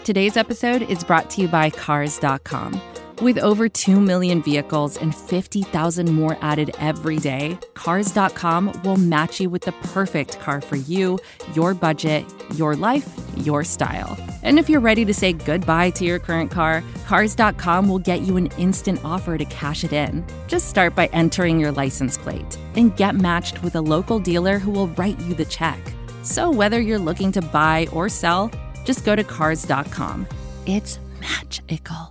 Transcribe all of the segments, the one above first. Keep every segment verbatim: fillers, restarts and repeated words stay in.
Today's episode is brought to you by Cars dot com. With over two million vehicles and fifty thousand more added every day, Cars dot com will match you with the perfect car for you, your budget, your life, your style. And if you're ready to say goodbye to your current car, Cars dot com will get you an instant offer to cash it in. Just start by entering your license plate and get matched with a local dealer who will write you the check. So whether you're looking to buy or sell, just go to Cars dot com. It's magical.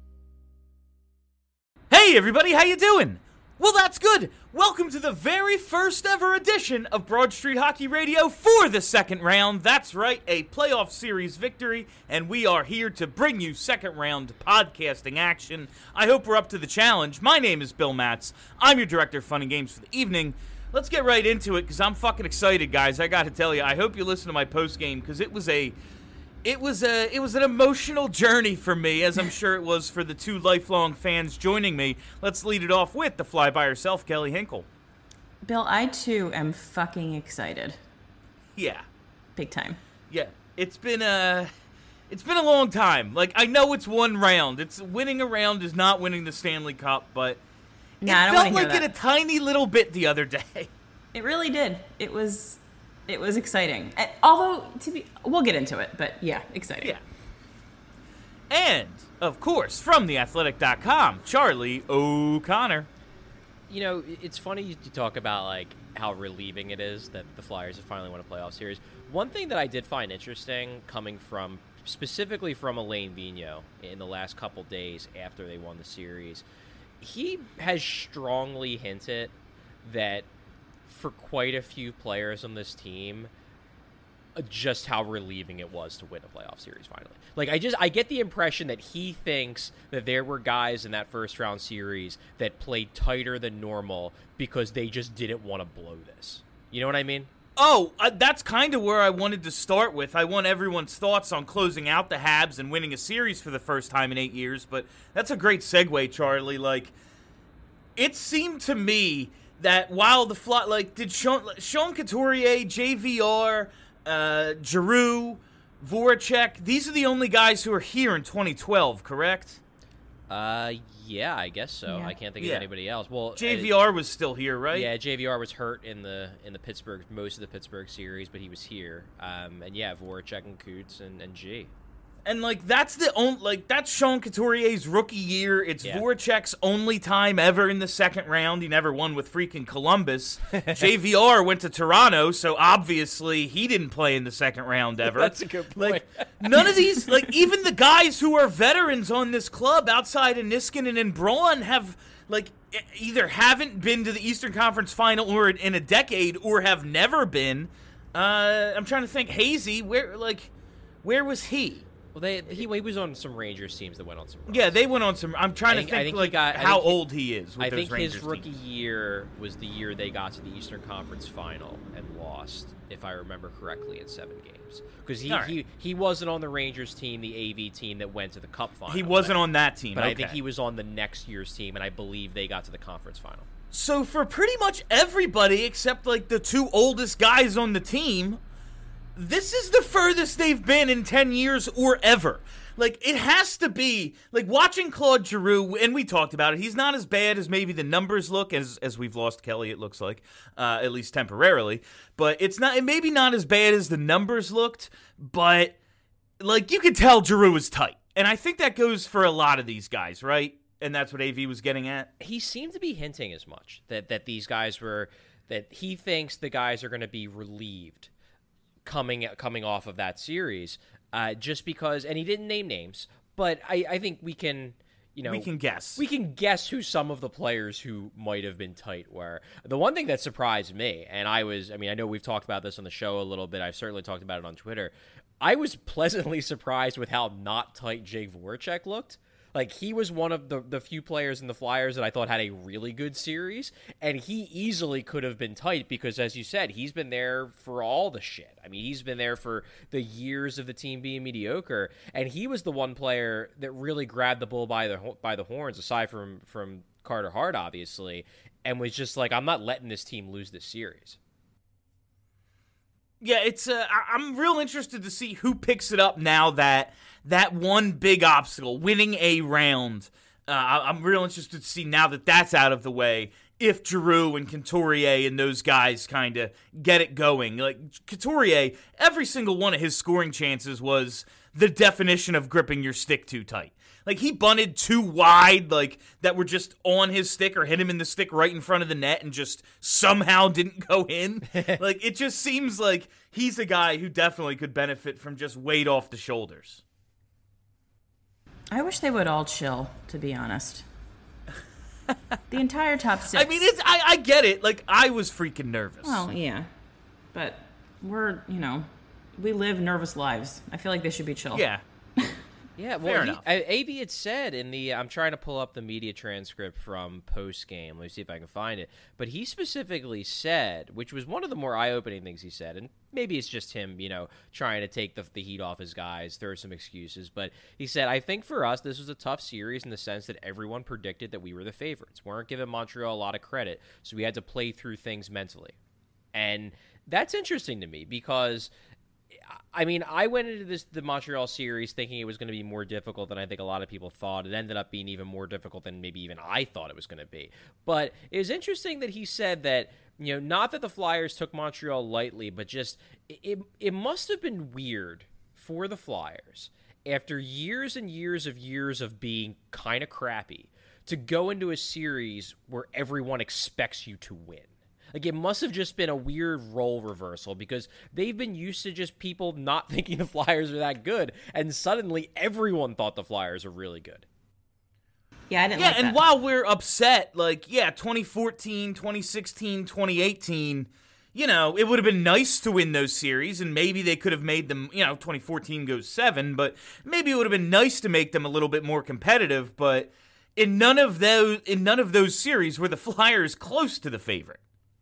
Hey everybody, how you doing? Well, that's good. Welcome to the very first ever edition of Broad Street Hockey Radio for the second round. That's right, a playoff series victory, and we are here to bring you second round podcasting action. I hope we're up to the challenge. My name is Bill Matz. I'm your director of fun and games for the evening. Let's get right into it, because I'm fucking excited, guys. I gotta tell you, I hope you listen to my post game, because it was a... It was a it was an emotional journey for me, as I'm sure it was for the two lifelong fans joining me. Let's lead it off with the fly by herself, Kelly Hinkle. Bill, I too am fucking excited. Yeah. Big time. Yeah. It's been a it's been a long time. Like, I know it's one round. It's winning a round is not winning the Stanley Cup, but nah, it I don't felt like that. it a tiny little bit the other day. It really did. It was It was exciting. Although, to be, we'll get into it, but yeah, exciting. Yeah. And, of course, from the athletic dot com, Charlie O'Connor. You know, it's funny you talk about, like, how relieving it is that the Flyers have finally won a playoff series. One thing that I did find interesting coming from, specifically from Alain Vigneault in the last couple days after they won the series, he has strongly hinted that for quite a few players on this team, just how relieving it was to win a playoff series finally. Like, I just, I get the impression that he thinks that there were guys in that first round series that played tighter than normal because they just didn't want to blow this. You know what I mean? Oh, uh, that's kind of where I wanted to start with. I want everyone's thoughts on closing out the Habs and winning a series for the first time in eight years, but that's a great segue, Charlie. Like, it seemed to me that while the fly, like, did Sean, Sean Couturier, J V R, uh, Giroux, Voracek, these are the only guys who are here in twenty twelve, correct? Uh, yeah, I guess so. Yeah. I can't think Yeah. of anybody else. Well, J V R uh, was still here, right? Yeah, J V R was hurt in the in the Pittsburgh most of the Pittsburgh series, but he was here. Um, and yeah, Voracek and Coots and, and G. And, like, that's the only, like, that's Sean Couturier's rookie year. It's Yeah. Voracek's only time ever in the second round. He never won with freaking Columbus. J V R went to Toronto, so obviously he didn't play in the second round ever. That's a good point. Like, none of these, like, even the guys who are veterans on this club outside of Niskanen and Braun have, like, either haven't been to the Eastern Conference Final or in a decade or have never been. Uh, I'm trying to think. Hazy, where, like, where was he? Well, they he, he was on some Rangers teams that went on some runs. Yeah, they went on some. I'm trying I think- to I think, think he like got- I how think he- old he is. With I those think Rangers his rookie teams. year was the year they got to the Eastern Conference Final and lost, if I remember correctly, in seven games. Because he, All right. he he wasn't on the Rangers team, the A V team that went to the Cup Final. He wasn't but, on that team. But okay. I think he was on the next year's team, and I believe they got to the Conference Final. So for pretty much everybody except like the two oldest guys on the team, this is the furthest they've been in ten years or ever. Like, it has to be, like, watching Claude Giroux, and we talked about it, he's not as bad as maybe the numbers look, as as we've lost Kelly, it looks like, uh, at least temporarily, but it's not, it maybe not as bad as the numbers looked, but, like, you could tell Giroux is tight, and I think that goes for a lot of these guys, right? And that's what A V was getting at? He seemed to be hinting as much, that, that these guys were, that he thinks the guys are going to be relieved coming coming off of that series. Uh, just because, and he didn't name names, but I, I think we can, you know, We can guess. We can guess who some of the players who might have been tight were. The one thing that surprised me, and I was, I mean, I know we've talked about this on the show a little bit. I've certainly talked about it on Twitter. I was pleasantly surprised with how not tight Jake Voracek looked. Like, he was one of the, the few players in the Flyers that I thought had a really good series, and he easily could have been tight because, as you said, he's been there for all the shit. I mean, he's been there for the years of the team being mediocre, and he was the one player that really grabbed the bull by the by the horns, aside from, from Carter Hart, obviously, and was just like, I'm not letting this team lose this series. Yeah, it's. Uh, I- I'm real interested to see who picks it up now that that one big obstacle, winning a round. Uh, I- I'm real interested to see now that that's out of the way, if Giroux and Couturier and those guys kind of get it going. Like, Couturier, every single one of his scoring chances was the definition of gripping your stick too tight. Like, he bunted too wide, like, that were just on his stick or hit him in the stick right in front of the net and just somehow didn't go in. Like, it just seems like he's a guy who definitely could benefit from just weight off the shoulders. I wish they would all chill, to be honest. The entire top six. I mean, it's I, I get it. Like, I was freaking nervous. Well, yeah. But we're, you know, we live nervous lives. I feel like they should be chill. Yeah. Yeah, Fair well, he, enough. A B had said in the, I'm trying to pull up the media transcript from post-game. Let me see if I can find it. But he specifically said, which was one of the more eye-opening things he said, and maybe it's just him, you know, trying to take the, the heat off his guys, throw some excuses. But he said, I think for us, this was a tough series in the sense that everyone predicted that we were the favorites. We weren't giving Montreal a lot of credit, so we had to play through things mentally. And that's interesting to me because, I mean, I went into this the Montreal series thinking it was going to be more difficult than I think a lot of people thought. It ended up being even more difficult than maybe even I thought it was going to be. But it was interesting that he said that, you know, not that the Flyers took Montreal lightly, but just it, it must have been weird for the Flyers after years and years of years of being kind of crappy to go into a series where everyone expects you to win. Like, it must have just been a weird role reversal because they've been used to just people not thinking the Flyers are that good, and suddenly everyone thought the Flyers are really good. Yeah, I didn't Yeah, like and that. while we're upset, like, yeah, twenty fourteen, twenty sixteen, twenty eighteen, you know, it would have been nice to win those series, and maybe they could have made them, you know, twenty fourteen goes seven, but maybe it would have been nice to make them a little bit more competitive, but in none of those, in none of those series were the Flyers close to the favorite.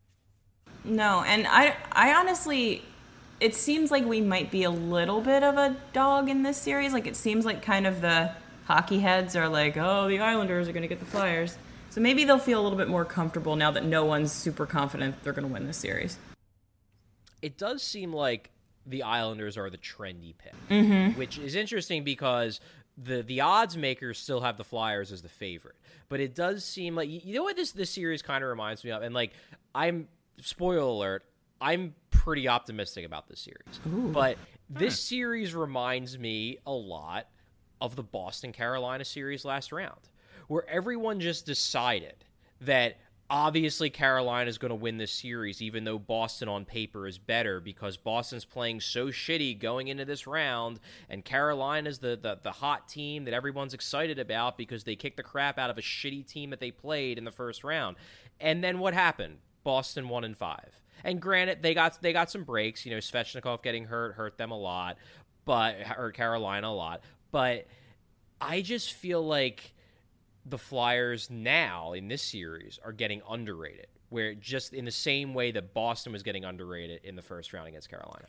No, and I, I honestly, it seems like we might be a little bit of a dog in this series. Like, it seems like kind of the hockey heads are like, oh, the Islanders are going to get the Flyers. So maybe they'll feel a little bit more comfortable now that no one's super confident they're going to win this series. It does seem like the Islanders are the trendy pick, Mm-hmm. which is interesting because the the odds makers still have the Flyers as the favorite. But it does seem like, you know what this, this series kind of reminds me of? And, like, I'm... spoiler alert, I'm pretty optimistic about this series. Ooh. But this series reminds me a lot of the Boston-Carolina series last round, where everyone just decided that obviously Carolina is going to win this series, even though Boston on paper is better because Boston's playing so shitty going into this round, and Carolina's the, the, the hot team that everyone's excited about because they kicked the crap out of a shitty team that they played in the first round. And then what happened? Boston one and five, and granted they got they got some breaks. You know, Svechnikov getting hurt hurt them a lot, but hurt Carolina a lot. But I just feel like the Flyers now in this series are getting underrated, where just in the same way that Boston was getting underrated in the first round against Carolina.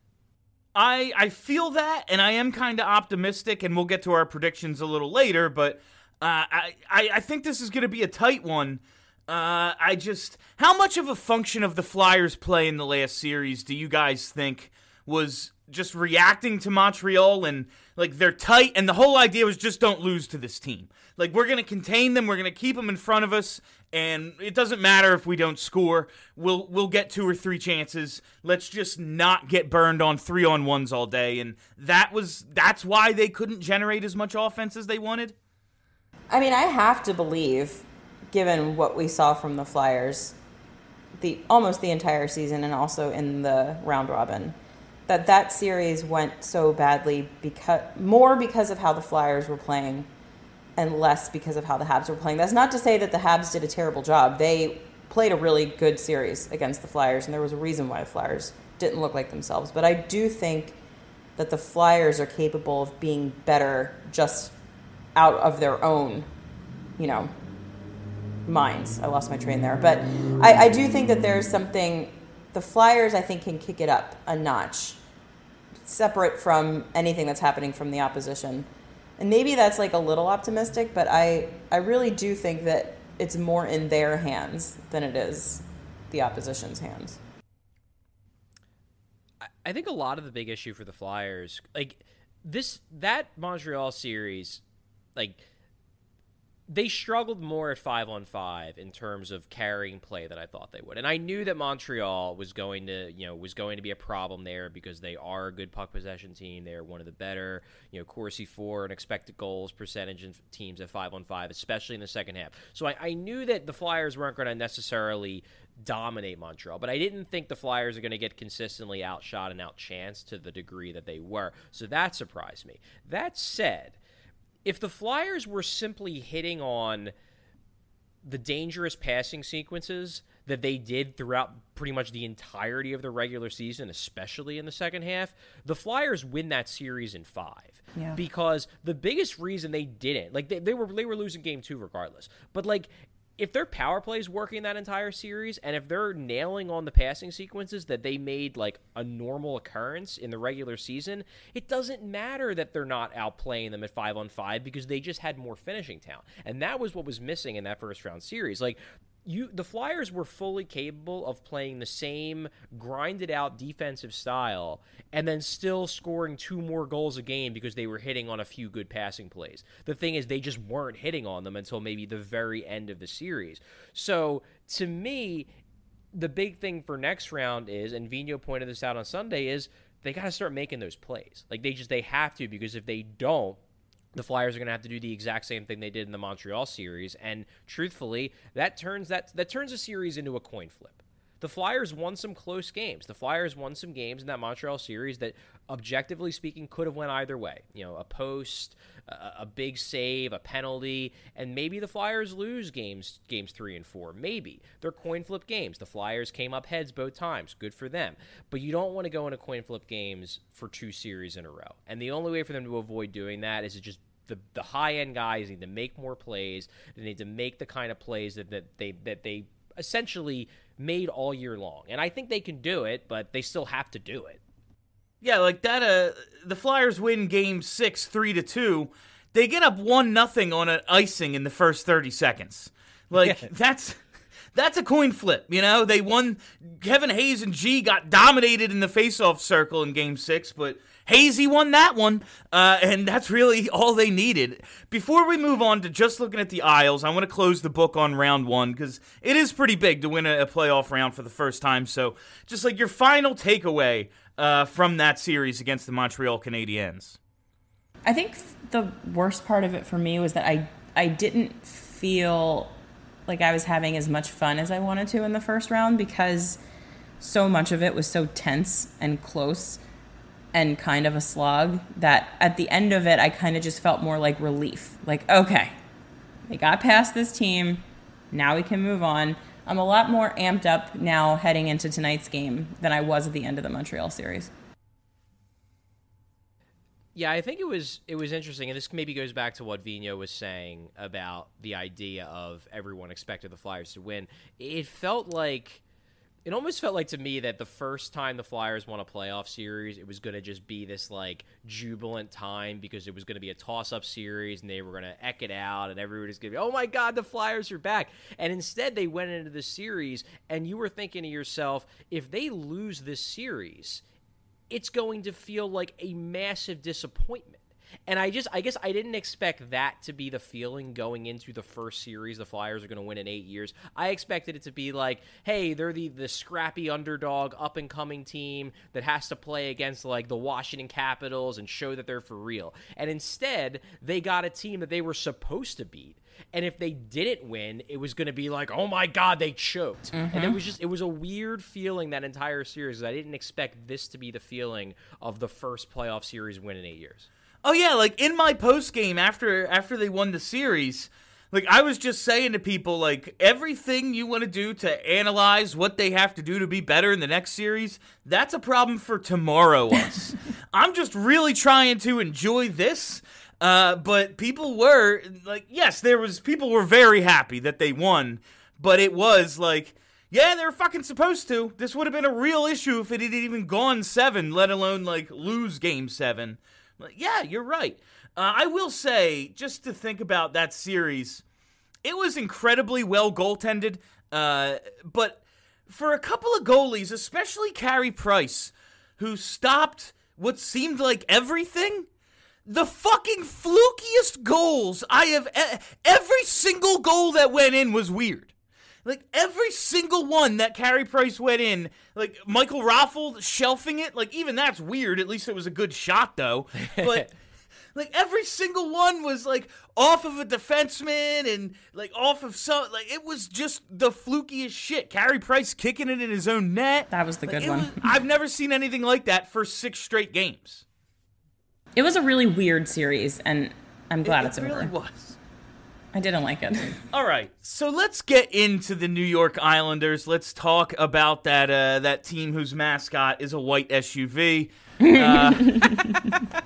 I I feel that, and I am kind of optimistic, and we'll get to our predictions a little later. But uh, I, I I think this is going to be a tight one. Uh, I just, how much of a function of the Flyers' play in the last series do you guys think was just reacting to Montreal and, like, they're tight, and the whole idea was just don't lose to this team. Like, we're going to contain them, we're going to keep them in front of us, and it doesn't matter if we don't score. We'll we'll get two or three chances. Let's just not get burned on three-on-ones all day, and that was, that's why they couldn't generate as much offense as they wanted? I mean, I have to believe, given what we saw from the Flyers the almost the entire season and also in the round robin, that that series went so badly because more because of how the Flyers were playing and less because of how the Habs were playing. That's not to say that the Habs did a terrible job. They played a really good series against the Flyers, and there was a reason why the Flyers didn't look like themselves. But I do think that the Flyers are capable of being better just out of their own, you know, minds. I lost my train there. But I, I do think that there's something, the Flyers, I think, can kick it up a notch, separate from anything that's happening from the opposition. And maybe that's like a little optimistic, but I, I really do think that it's more in their hands than it is the opposition's hands. I think a lot of the big issue for the Flyers, like, this that Montreal series, like, they struggled more at five on five in terms of carrying play than I thought they would. And I knew that Montreal was going to, you know, was going to be a problem there because they are a good puck possession team. They are one of the better, you know, Corsi for and expected goals percentage in teams at five on five, especially in the second half. So I, I knew that the Flyers weren't going to necessarily dominate Montreal, but I didn't think the Flyers are going to get consistently outshot and outchanced to the degree that they were. So that surprised me. That said, if the Flyers were simply hitting on the dangerous passing sequences that they did throughout pretty much the entirety of the regular season, especially in the second half, the Flyers win that series in five. Yeah. Because the biggest reason they didn't, like they, they were they were losing game two regardless, but like if their power play is working that entire series, and if they're nailing on the passing sequences that they made like a normal occurrence in the regular season, it doesn't matter that they're not outplaying them at five on five because they just had more finishing talent. And that was what was missing in that first round series. Like, You, the Flyers were fully capable of playing the same grinded out defensive style and then still scoring two more goals a game because they were hitting on a few good passing plays. The thing is, they just weren't hitting on them until maybe the very end of the series. So to me, the big thing for next round is, and Vigneault pointed this out on Sunday, is they got to start making those plays. Like they just, they have to, because if they don't, the Flyers are going to have to do the exact same thing they did in the Montreal series, and truthfully, that turns that that turns a series into a coin flip. The Flyers won some close games. The Flyers won some games in that Montreal series that, objectively speaking, could have went either way. You know, a post, a, a big save, a penalty, and maybe the Flyers lose games games three and four. Maybe. They're coin flip games. The Flyers came up heads both times. Good for them. But you don't want to go into coin flip games for two series in a row. And the only way for them to avoid doing that is to just The, the high-end guys need to make more plays. They need to make the kind of plays that, that they that they essentially made all year long. And I think they can do it, but they still have to do it. Yeah, like that. Uh, the Flyers win Game Six, three to two. They get up one nothing on an icing in the first thirty seconds. Like yeah. that's that's a coin flip. You know, they won. Kevin Hayes and G got dominated in the faceoff circle in Game Six, but Hazy won that one, uh, and that's really all they needed. Before we move on to just looking at the Isles, I want to close the book on round one, because it is pretty big to win a, a playoff round for the first time. So just like your final takeaway uh, from that series against the Montreal Canadiens. I think the worst part of it for me was that I, I didn't feel like I was having as much fun as I wanted to in the first round, because so much of it was so tense and close and kind of a slog, that at the end of it, I kind of just felt more like relief. Like, okay, they got past this team. Now we can move on. I'm a lot more amped up now heading into tonight's game than I was at the end of the Montreal series. Yeah, I think it was it was interesting, and this maybe goes back to what Vigneault was saying about the idea of everyone expected the Flyers to win. It felt like It almost felt like to me that the first time the Flyers won a playoff series, it was going to just be this like jubilant time because it was going to be a toss-up series and they were going to eck it out and everybody was going to be, oh my God, the Flyers are back. And instead they went into the series and you were thinking to yourself, if they lose this series, it's going to feel like a massive disappointment. And I just, I guess I didn't expect that to be the feeling going into the first series the Flyers are going to win in eight years. I expected it to be like, hey, they're the, the scrappy underdog, up-and-coming team that has to play against, like, the Washington Capitals and show that they're for real. And instead, they got a team that they were supposed to beat. And if they didn't win, it was going to be like, oh my God, they choked. Mm-hmm. And it was just, it was a weird feeling that entire series. I didn't expect this to be the feeling of the first playoff series win in eight years. Oh, yeah, like, in my post-game after after they won the series, like, I was just saying to people, like, everything you want to do to analyze what they have to do to be better in the next series, that's a problem for tomorrow us. I'm just really trying to enjoy this, uh, but people were, like, yes, there was, people were very happy that they won, but it was, like, yeah, they were fucking supposed to. This would have been a real issue if it had even gone seven, let alone, like, lose game seven. Yeah, you're right. Uh, I will say, just to think about that series, it was incredibly well goaltended, uh, but for a couple of goalies, especially Carey Price, who stopped what seemed like everything, the fucking flukiest goals I have. E- every single goal that went in was weird. Like, every single one that Carey Price went in, like, Michael Raffel shelving it, like, even that's weird. At least it was a good shot, though. But, like, every single one was, like, off of a defenseman and, like, off of some, like, it was just the flukiest shit. Carey Price kicking it in his own net. That was the like, good one. Was, I've never seen anything like that for six straight games. It was a really weird series, and I'm glad it, it's it over. It really was. I didn't like it. All right, so let's get into the New York Islanders. Let's talk about that uh, that team whose mascot is a white S U V. Uh, I,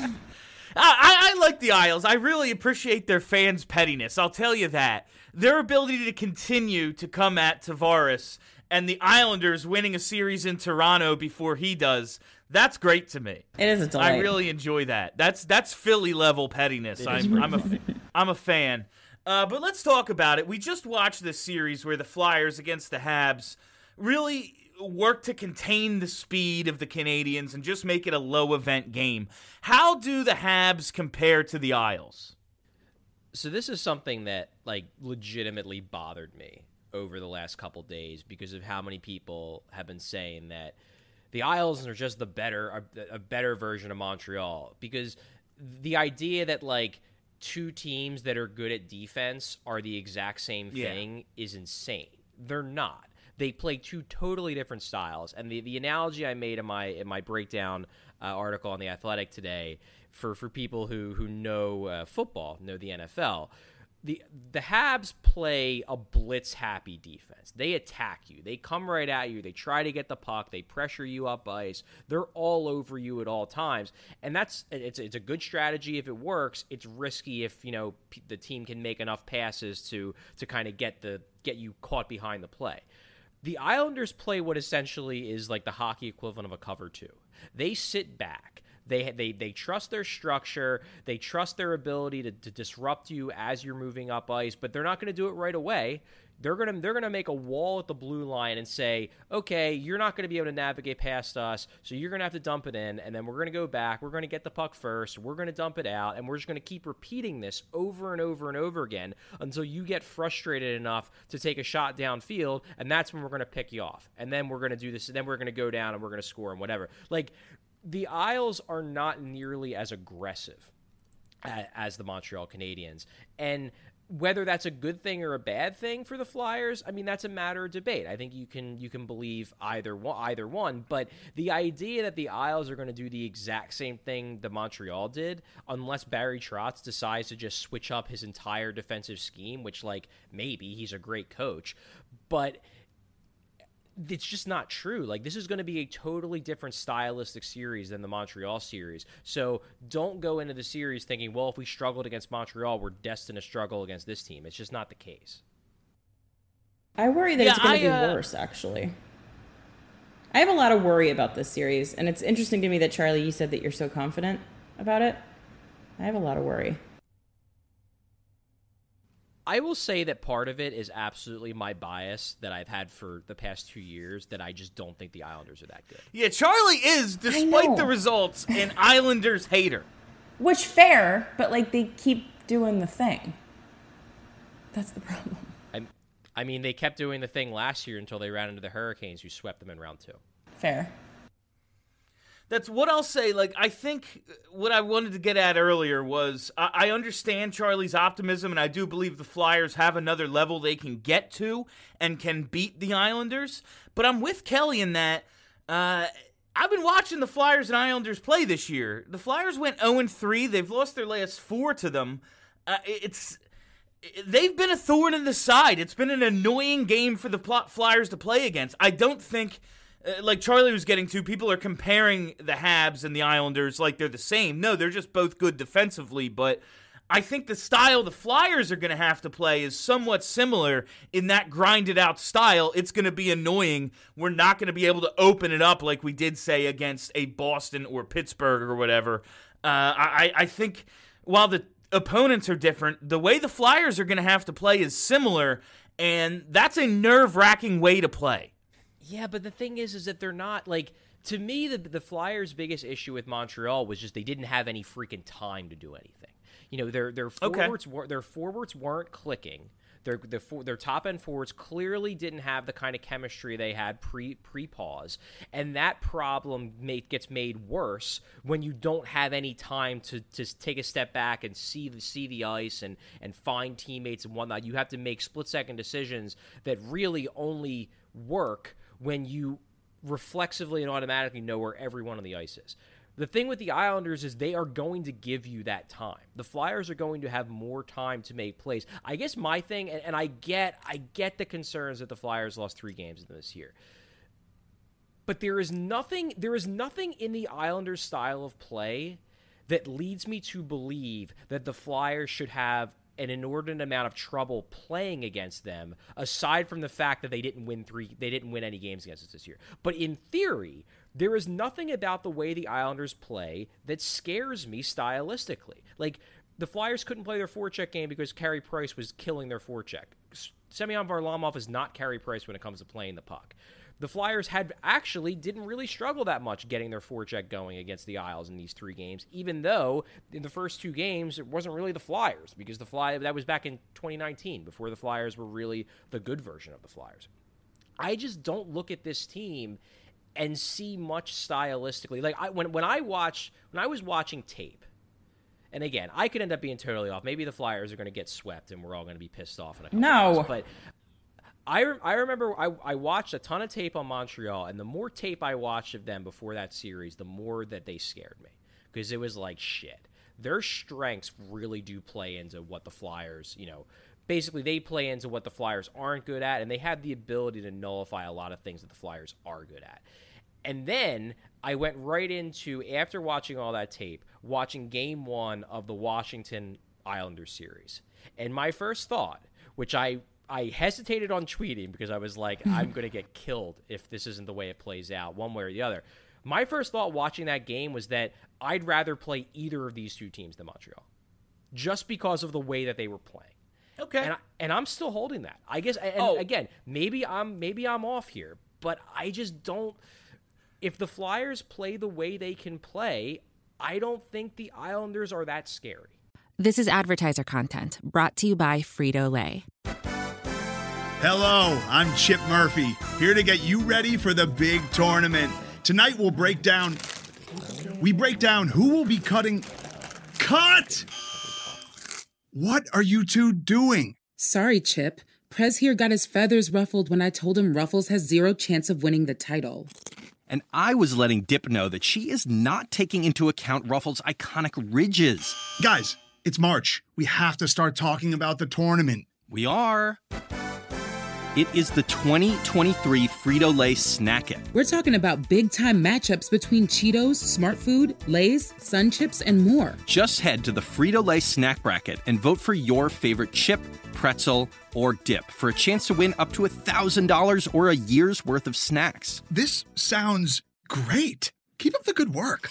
I like the Isles. I really appreciate their fans' pettiness. I'll tell you that. Their ability to continue to come at Tavares and the Islanders winning a series in Toronto before he does, that's great to me. It is a delight. I really enjoy that. That's that's Philly-level pettiness. I'm, I'm, a, I'm a fan. Uh, but let's talk about it. We just watched this series where the Flyers against the Habs really worked to contain the speed of the Canadians and just make it a low-event game. How do the Habs compare to the Isles? So this is something that, like, legitimately bothered me over the last couple days because of how many people have been saying that the Isles are just the better, a, a better version of Montreal. Because the idea that, like, two teams that are good at defense are the exact same thing yeah. is insane. They're not. They play two totally different styles. And the, the analogy I made in my in my breakdown uh, article on The Athletic today for, for people who, who know uh, football, know the N F L, the the Habs play a blitz-happy defense. They attack you. They come right at you. They try to get the puck. They pressure you up ice. They're all over you at all times. And that's it's it's a good strategy if it works. It's risky if, you know, p- the team can make enough passes to to kind of get the get you caught behind the play. The Islanders play what essentially is like the hockey equivalent of a cover two. They sit back. They they they trust their structure. They trust their ability to, to disrupt you as you're moving up ice, but they're not going to do it right away. They're gonna they're gonna make a wall at the blue line and say, okay, you're not going to be able to navigate past us, so you're going to have to dump it in, and then we're going to go back. We're going to get the puck first. We're going to dump it out, and we're just going to keep repeating this over and over and over again until you get frustrated enough to take a shot downfield, and that's when we're going to pick you off. And then we're going to do this, and then we're going to go down and we're going to score and whatever. Like, the Isles are not nearly as aggressive as the Montreal Canadiens. And whether that's a good thing or a bad thing for the Flyers, I mean, that's a matter of debate. I think you can you can believe either one, either one. But the idea that the Isles are going to do the exact same thing the Montreal did, unless Barry Trotz decides to just switch up his entire defensive scheme, which, like, maybe he's a great coach, but it's just not true. Like, this is going to be a totally different stylistic series than the Montreal series. So don't go into the series thinking, well, if we struggled against Montreal, we're destined to struggle against this team. It's just not the case. I worry that yeah, it's going to be uh... worse, actually. I have a lot of worry about this series, and it's interesting to me that, Charlie, you said that you're so confident about it. I have a lot of worry. I will say that part of it is absolutely my bias that I've had for the past two years, that I just don't think the Islanders are that good. Yeah, Charlie is, despite the results, an Islanders hater. Which, fair, but, like, they keep doing the thing. That's the problem. I, I mean, they kept doing the thing last year until they ran into the Hurricanes, who swept them in round two. Fair. That's what I'll say. Like, I think what I wanted to get at earlier was I, I understand Charlie's optimism, and I do believe the Flyers have another level they can get to and can beat the Islanders. But I'm with Kelly in that uh, I've been watching the Flyers and Islanders play this year. The Flyers went oh and three. They've lost their last four to them. Uh, it's they've been a thorn in the side. It's been an annoying game for the Flyers to play against. I don't think, uh, like Charlie was getting to, people are comparing the Habs and the Islanders like they're the same. No, they're just both good defensively, but I think the style the Flyers are going to have to play is somewhat similar in that grinded-out style. It's going to be annoying. We're not going to be able to open it up like we did, say, against a Boston or Pittsburgh or whatever. Uh, I, I think while the opponents are different, the way the Flyers are going to have to play is similar, and that's a nerve-wracking way to play. Yeah, but the thing is, is that they're not, like, to me, the the Flyers' biggest issue with Montreal was just they didn't have any freaking time to do anything. You know, their their forwards okay. were, their forwards weren't clicking. Their their their top end forwards clearly didn't have the kind of chemistry they had pre pre pause, and that problem made, gets made worse when you don't have any time to, to take a step back and see the see the ice and and find teammates and whatnot. You have to make split second decisions that really only work when you reflexively and automatically know where everyone on the ice is. The thing with the Islanders is they are going to give you that time. The Flyers are going to have more time to make plays. I guess my thing, and, and I get I get the concerns that the Flyers lost three games this year. But there is nothing there is nothing in the Islanders' style of play that leads me to believe that the Flyers should have an inordinate amount of trouble playing against them, aside from the fact that they didn't win three they didn't win any games against us this year. But in theory, there is nothing about the way the Islanders play that scares me stylistically. Like, the Flyers couldn't play their forecheck game because Carey Price was killing their forecheck. Semyon Varlamov is not Carey Price when it comes to playing the puck. The Flyers had actually didn't really struggle that much getting their forecheck going against the Isles in these three games, even though in the first two games it wasn't really the Flyers, because the Fly that was back in twenty nineteen, before the Flyers were really the good version of the Flyers. I just don't look at this team and see much stylistically. Like I, when when I watch when I was watching tape, and again, I could end up being totally off. Maybe the Flyers are going to get swept, and we're all going to be pissed off in a couple No. months, but. I, I remember I, I watched a ton of tape on Montreal, and the more tape I watched of them before that series, the more that they scared me. Because it was like, shit. Their strengths really do play into what the Flyers, you know, basically they play into what the Flyers aren't good at, and they have the ability to nullify a lot of things that the Flyers are good at. And then I went right into, after watching all that tape, watching game one of the Washington Islanders series. And my first thought, which I... I hesitated on tweeting because I was like, I'm going to get killed if this isn't the way it plays out, one way or the other. My first thought watching that game was that I'd rather play either of these two teams than Montreal, just because of the way that they were playing. Okay, and, I, and I'm still holding that. I guess. And oh. again, maybe I'm maybe I'm off here, but I just don't. If the Flyers play the way they can play, I don't think the Islanders are that scary. This is advertiser content brought to you by Frito-Lay. Hello, I'm Chip Murphy, here to get you ready for the big tournament. Tonight we'll break down... We break down who will be cutting... Cut! What are you two doing? Sorry, Chip. Prez here got his feathers ruffled when I told him Ruffles has zero chance of winning the title. And I was letting Dip know that she is not taking into account Ruffles' iconic ridges. Guys, it's March. We have to start talking about the tournament. We are... It is the twenty twenty-three Frito-Lay Snack It. We're talking about big-time matchups between Cheetos, Smart Food, Lay's, Sun Chips, and more. Just head to the Frito-Lay Snack Bracket and vote for your favorite chip, pretzel, or dip for a chance to win up to one thousand dollars or a year's worth of snacks. This sounds great. Keep up the good work.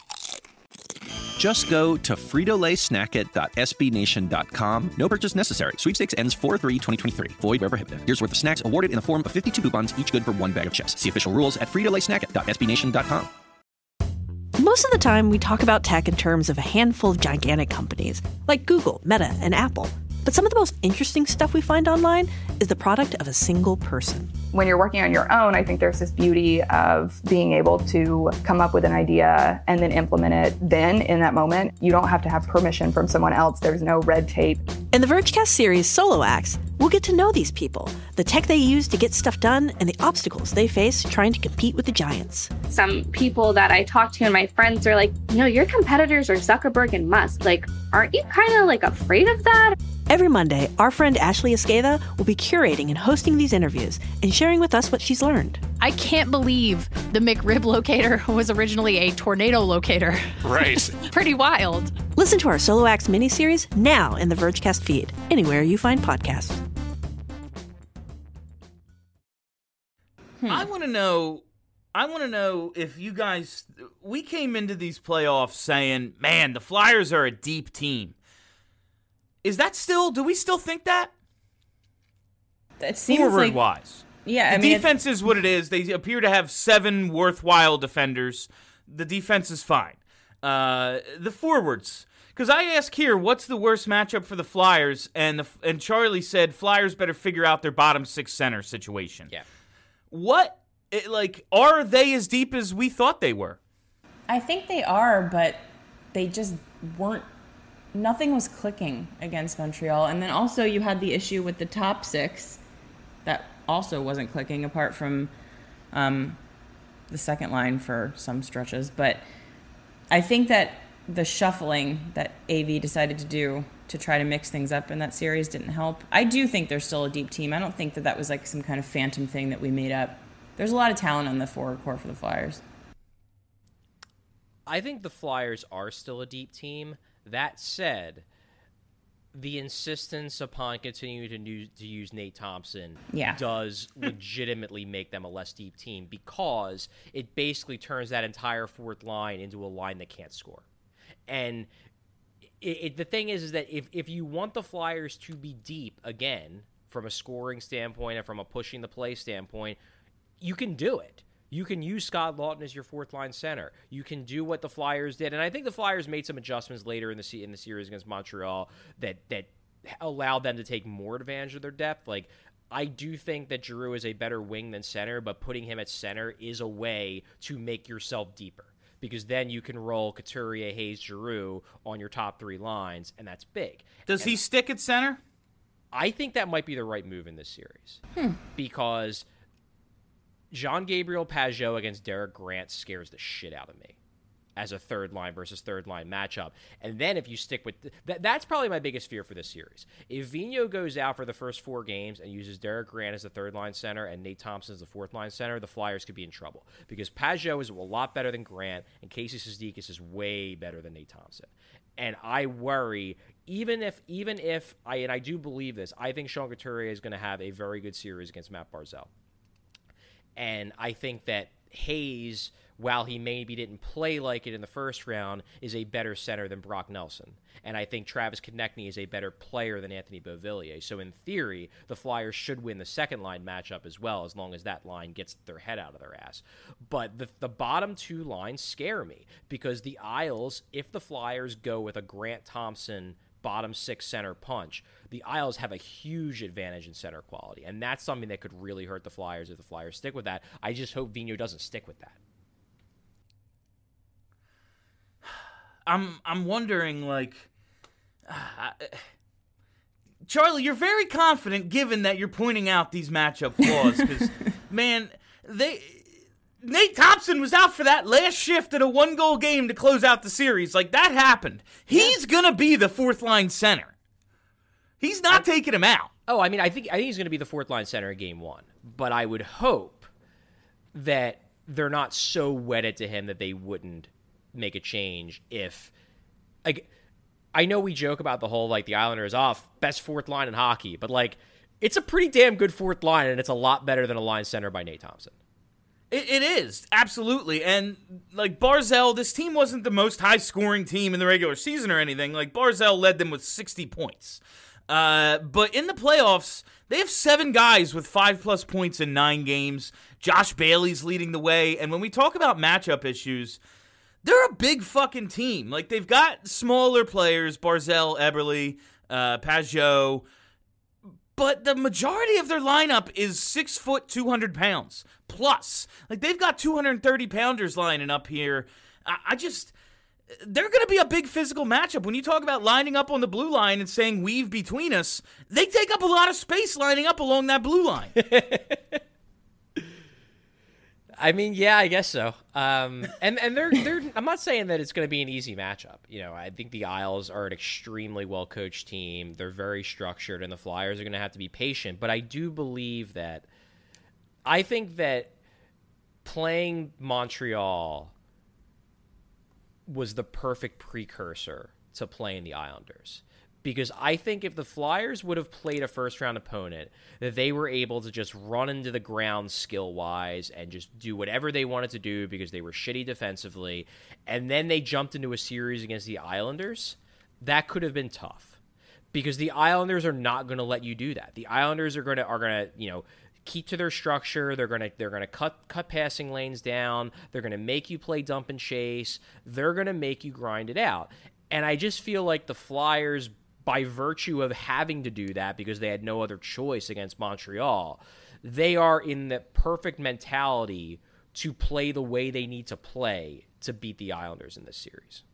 Just go to Frito Lay Snack It dot S B Nation dot com. No purchase necessary. Sweepstakes ends four three twenty twenty-three. Void where prohibited. Here's worth of snacks awarded in the form of fifty-two coupons, each good for one bag of chips. See official rules at Frito Lay Snack It dot S B Nation dot com. Most of the time, we talk about tech in terms of a handful of gigantic companies, like Google, Meta, and Apple. But some of the most interesting stuff we find online is the product of a single person. When you're working on your own, I think there's this beauty of being able to come up with an idea and then implement it then in that moment. You don't have to have permission from someone else. There's no red tape. In the Vergecast series Solo Acts, we'll get to know these people, the tech they use to get stuff done, and the obstacles they face trying to compete with the giants. Some people that I talk to and my friends are like, you know, your competitors are Zuckerberg and Musk. Like, aren't you kind of like afraid of that? Every Monday, our friend Ashley Esqueda will be curating and hosting these interviews and sharing with us what she's learned. I can't believe the McRib locator was originally a tornado locator. Right. Pretty wild. Listen to our Solo Acts miniseries now in the Vergecast feed, anywhere you find podcasts. Hmm. I want to know... I want to know if you guys... We came into these playoffs saying, man, the Flyers are a deep team. Is that still... Do we still think that? It seems Forward like... wise. Yeah, the I mean, defense is what it is. They appear to have seven worthwhile defenders. The defense is fine. Uh, the forwards, because I ask here, what's the worst matchup for the Flyers? And the and Charlie said Flyers better figure out their bottom six center situation. Yeah. What, it, like, are they as deep as we thought they were? I think they are, but they just weren't. Nothing was clicking against Montreal. And then also you had the issue with the top six that also wasn't clicking, apart from um, the second line for some stretches. But I think that the shuffling that A V decided to do to try to mix things up in that series didn't help. I do think they're still a deep team. I don't think that that was like some kind of phantom thing that we made up. There's a lot of talent on the forward core for the Flyers. I think the Flyers are still a deep team. That said, the insistence upon continuing to use, to use Nate Thompson yeah. does legitimately make them a less deep team, because it basically turns that entire fourth line into a line that can't score. And it, it, the thing is, is that if, if you want the Flyers to be deep again, from a scoring standpoint and from a pushing the play standpoint, you can do it. You can use Scott Laughton as your fourth-line center. You can do what the Flyers did. And I think the Flyers made some adjustments later in the in the series against Montreal that that allowed them to take more advantage of their depth. Like, I do think that Giroux is a better wing than center, but putting him at center is a way to make yourself deeper, because then you can roll Couturier, Hayes, Giroux on your top three lines, and that's big. Does and he stick at center? I think that might be the right move in this series, hmm. because Jean-Gabriel Pageau against Derek Grant scares the shit out of me as a third line versus third line matchup. And then if you stick with th- that, that's probably my biggest fear for this series. If Vigneault goes out for the first four games and uses Derek Grant as the third line center and Nate Thompson as the fourth line center, the Flyers could be in trouble, because Pageau is a lot better than Grant and Casey Cizikas is way better than Nate Thompson. And I worry, even if even if I and I do believe this, I think Sean Couturier is going to have a very good series against Matt Barzal. And I think that Hayes, while he maybe didn't play like it in the first round, is a better center than Brock Nelson. And I think Travis Konechny is a better player than Anthony Beauvillier. So in theory, the Flyers should win the second line matchup as well, as long as that line gets their head out of their ass. But the, the bottom two lines scare me, because the Isles, if the Flyers go with a Grant Thompson bottom six center punch, the Isles have a huge advantage in center quality, and that's something that could really hurt the Flyers if the Flyers stick with that. I just hope Vigneault doesn't stick with that. I'm I'm wondering, like, uh, Charlie, you're very confident given that you're pointing out these matchup flaws, because man, they Nate Thompson was out for that last shift in a one-goal game to close out the series. Like, that happened. He's yeah. gonna be the fourth-line center. He's not I, taking him out. Oh, I mean, I think I think he's gonna be the fourth-line center in game one. But I would hope that they're not so wedded to him that they wouldn't make a change if, like, I know we joke about the whole, like, the Islanders off best fourth line in hockey, but, like, it's a pretty damn good fourth line, and it's a lot better than a line center by Nate Thompson. It, it is, absolutely. And, like, Barzal, this team wasn't the most high-scoring team in the regular season or anything. Like, Barzal led them with sixty points. Uh, but in the playoffs, they have seven guys with five-plus points in nine games. Josh Bailey's leading the way. And when we talk about matchup issues, they're a big fucking team. Like, they've got smaller players, Barzal, Eberle, uh, Pageau, but the majority of their lineup is six foot, two hundred pounds plus. Like, they've got two hundred thirty pounders lining up here. I, I just, they're going to be a big physical matchup. When you talk about lining up on the blue line and saying weave between us, they take up a lot of space lining up along that blue line. I mean, yeah, I guess so. Um, and and they're they're. I'm not saying that it's going to be an easy matchup. You know, I think the Isles are an extremely well coached team. They're very structured, and the Flyers are going to have to be patient. But I do believe that. I think that playing Montreal was the perfect precursor to playing the Islanders. Because I think if the Flyers would have played a first-round opponent, that they were able to just run into the ground skill-wise and just do whatever they wanted to do because they were shitty defensively, and then they jumped into a series against the Islanders, that could have been tough. Because the Islanders are not going to let you do that. The Islanders are going to, are going to, you know, keep to their structure. They're gonna they're gonna cut cut passing lanes down. They're gonna make you play dump and chase. They're gonna make you grind it out. And I just feel like the Flyers, by virtue of having to do that because they had no other choice against Montreal, they are in the perfect mentality to play the way they need to play to beat the Islanders in this series.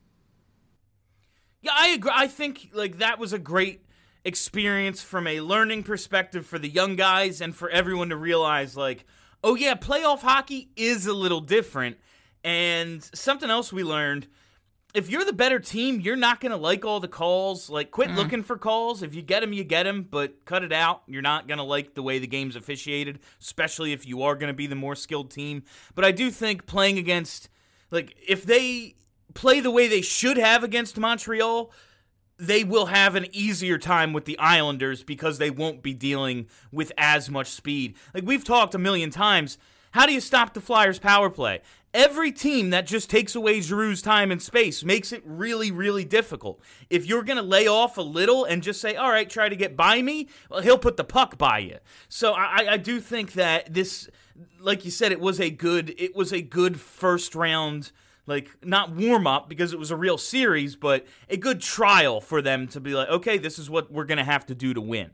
Yeah, I agree. I think like that was a great experience from a learning perspective for the young guys and for everyone to realize, like, oh yeah, playoff hockey is a little different. And something else we learned, if you're the better team, you're not going to like all the calls. Like, quit mm. looking for calls. If you get them, you get them, but cut it out. You're not going to like the way the game's officiated, especially if you are going to be the more skilled team. But I do think playing against, like, if they play the way they should have against Montreal, they will have an easier time with the Islanders because they won't be dealing with as much speed. Like, we've talked a million times, how do you stop the Flyers' power play? Every team that just takes away Giroux's time and space makes it really, really difficult. If you're going to lay off a little and just say, all right, try to get by me, well, he'll put the puck by you. So I, I do think that this, like you said, it was a good, it was a good first round, like, not warm-up because it was a real series, but a good trial for them to be like, okay, this is what we're going to have to do to win.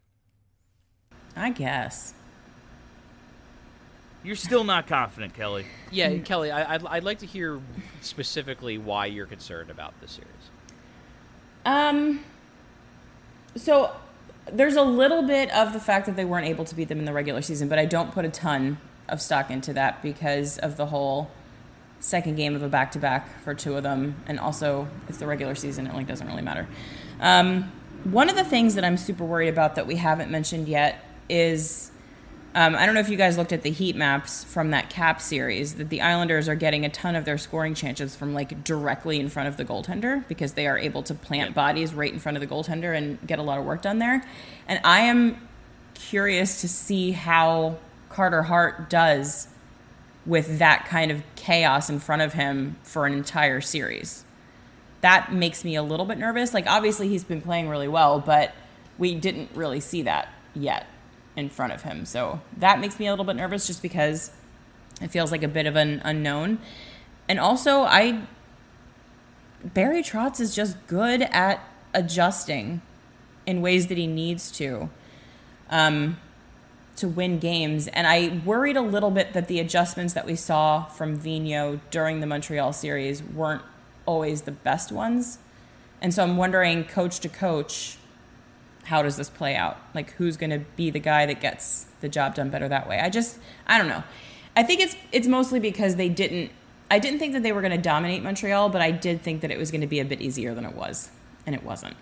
I guess. You're still not confident, Kelly. Yeah, Kelly, I, I'd, I'd like to hear specifically why you're concerned about this series. Um, so there's a little bit of the fact that they weren't able to beat them in the regular season, but I don't put a ton of stock into that because of the whole second game of a back-to-back for two of them, and also it's the regular season. It like doesn't really matter. Um, one of the things that I'm super worried about that we haven't mentioned yet is Um, I don't know if you guys looked at the heat maps from that Cap series, that the Islanders are getting a ton of their scoring chances from, like, directly in front of the goaltender because they are able to plant bodies right in front of the goaltender and get a lot of work done there. And I am curious to see how Carter Hart does with that kind of chaos in front of him for an entire series. That makes me a little bit nervous. Like, obviously he's been playing really well, but we didn't really see that yet in front of him. So that makes me a little bit nervous just because it feels like a bit of an unknown. And also, I Barry Trotz is just good at adjusting in ways that he needs to um, to win games. And I worried a little bit that the adjustments that we saw from Vigneault during the Montreal series weren't always the best ones. And so I'm wondering, coach to coach, how does this play out? Like, who's going to be the guy that gets the job done better that way? I just, I don't know. I think it's it's mostly because they didn't, I didn't think that they were going to dominate Montreal, but I did think that it was going to be a bit easier than it was, and it wasn't.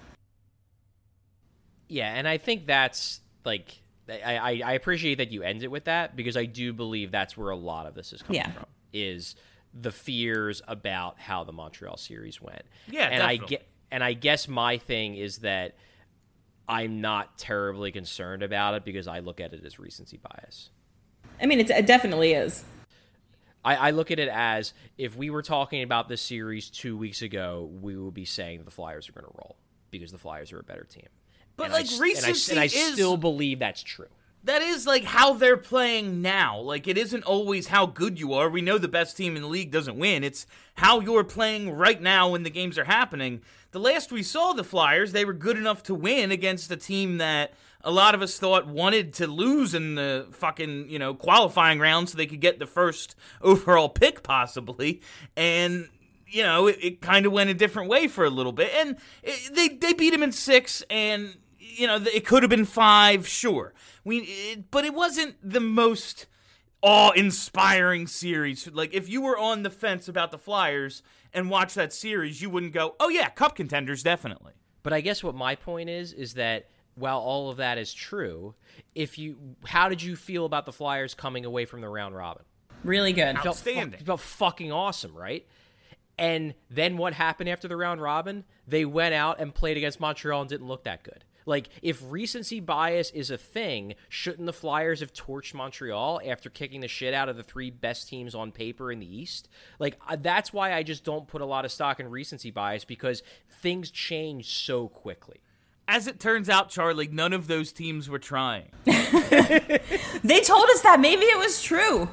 Yeah, and I think that's, like, I, I, I appreciate that you end it with that because I do believe that's where a lot of this is coming yeah. from, is the fears about how the Montreal series went. Yeah, and definitely. I get, and I guess my thing is that I'm not terribly concerned about it because I look at it as recency bias. I mean, it's, it definitely is. I, I look at it as if we were talking about this series two weeks ago, we would be saying the Flyers are going to roll because the Flyers are a better team. But, and like, I, recency and I, is... and I still believe that's true. That is, like, how they're playing now. Like, it isn't always how good you are. We know the best team in the league doesn't win. It's how you're playing right now when the games are happening. The last we saw the Flyers, they were good enough to win against a team that a lot of us thought wanted to lose in the fucking, you know, qualifying round so they could get the first overall pick, possibly. And, you know, it, it kind of went a different way for a little bit. And it, they, they beat him in six, and, you know, it could have been five, sure. We, it, but it wasn't the most awe-inspiring series. Like, if you were on the fence about the Flyers and watch that series, you wouldn't go, oh yeah, cup contenders, definitely. But I guess what my point is, is that while all of that is true, if you, how did you feel about the Flyers coming away from the round robin? Really good. It felt, Outstanding. It felt fucking awesome, right? And then what happened after the round robin? They went out and played against Montreal and didn't look that good. Like, if recency bias is a thing, shouldn't the Flyers have torched Montreal after kicking the shit out of the three best teams on paper in the East? Like, that's why I just don't put a lot of stock in recency bias, because things change so quickly. As it turns out, Charlie, none of those teams were trying. They told us that. Maybe it was true.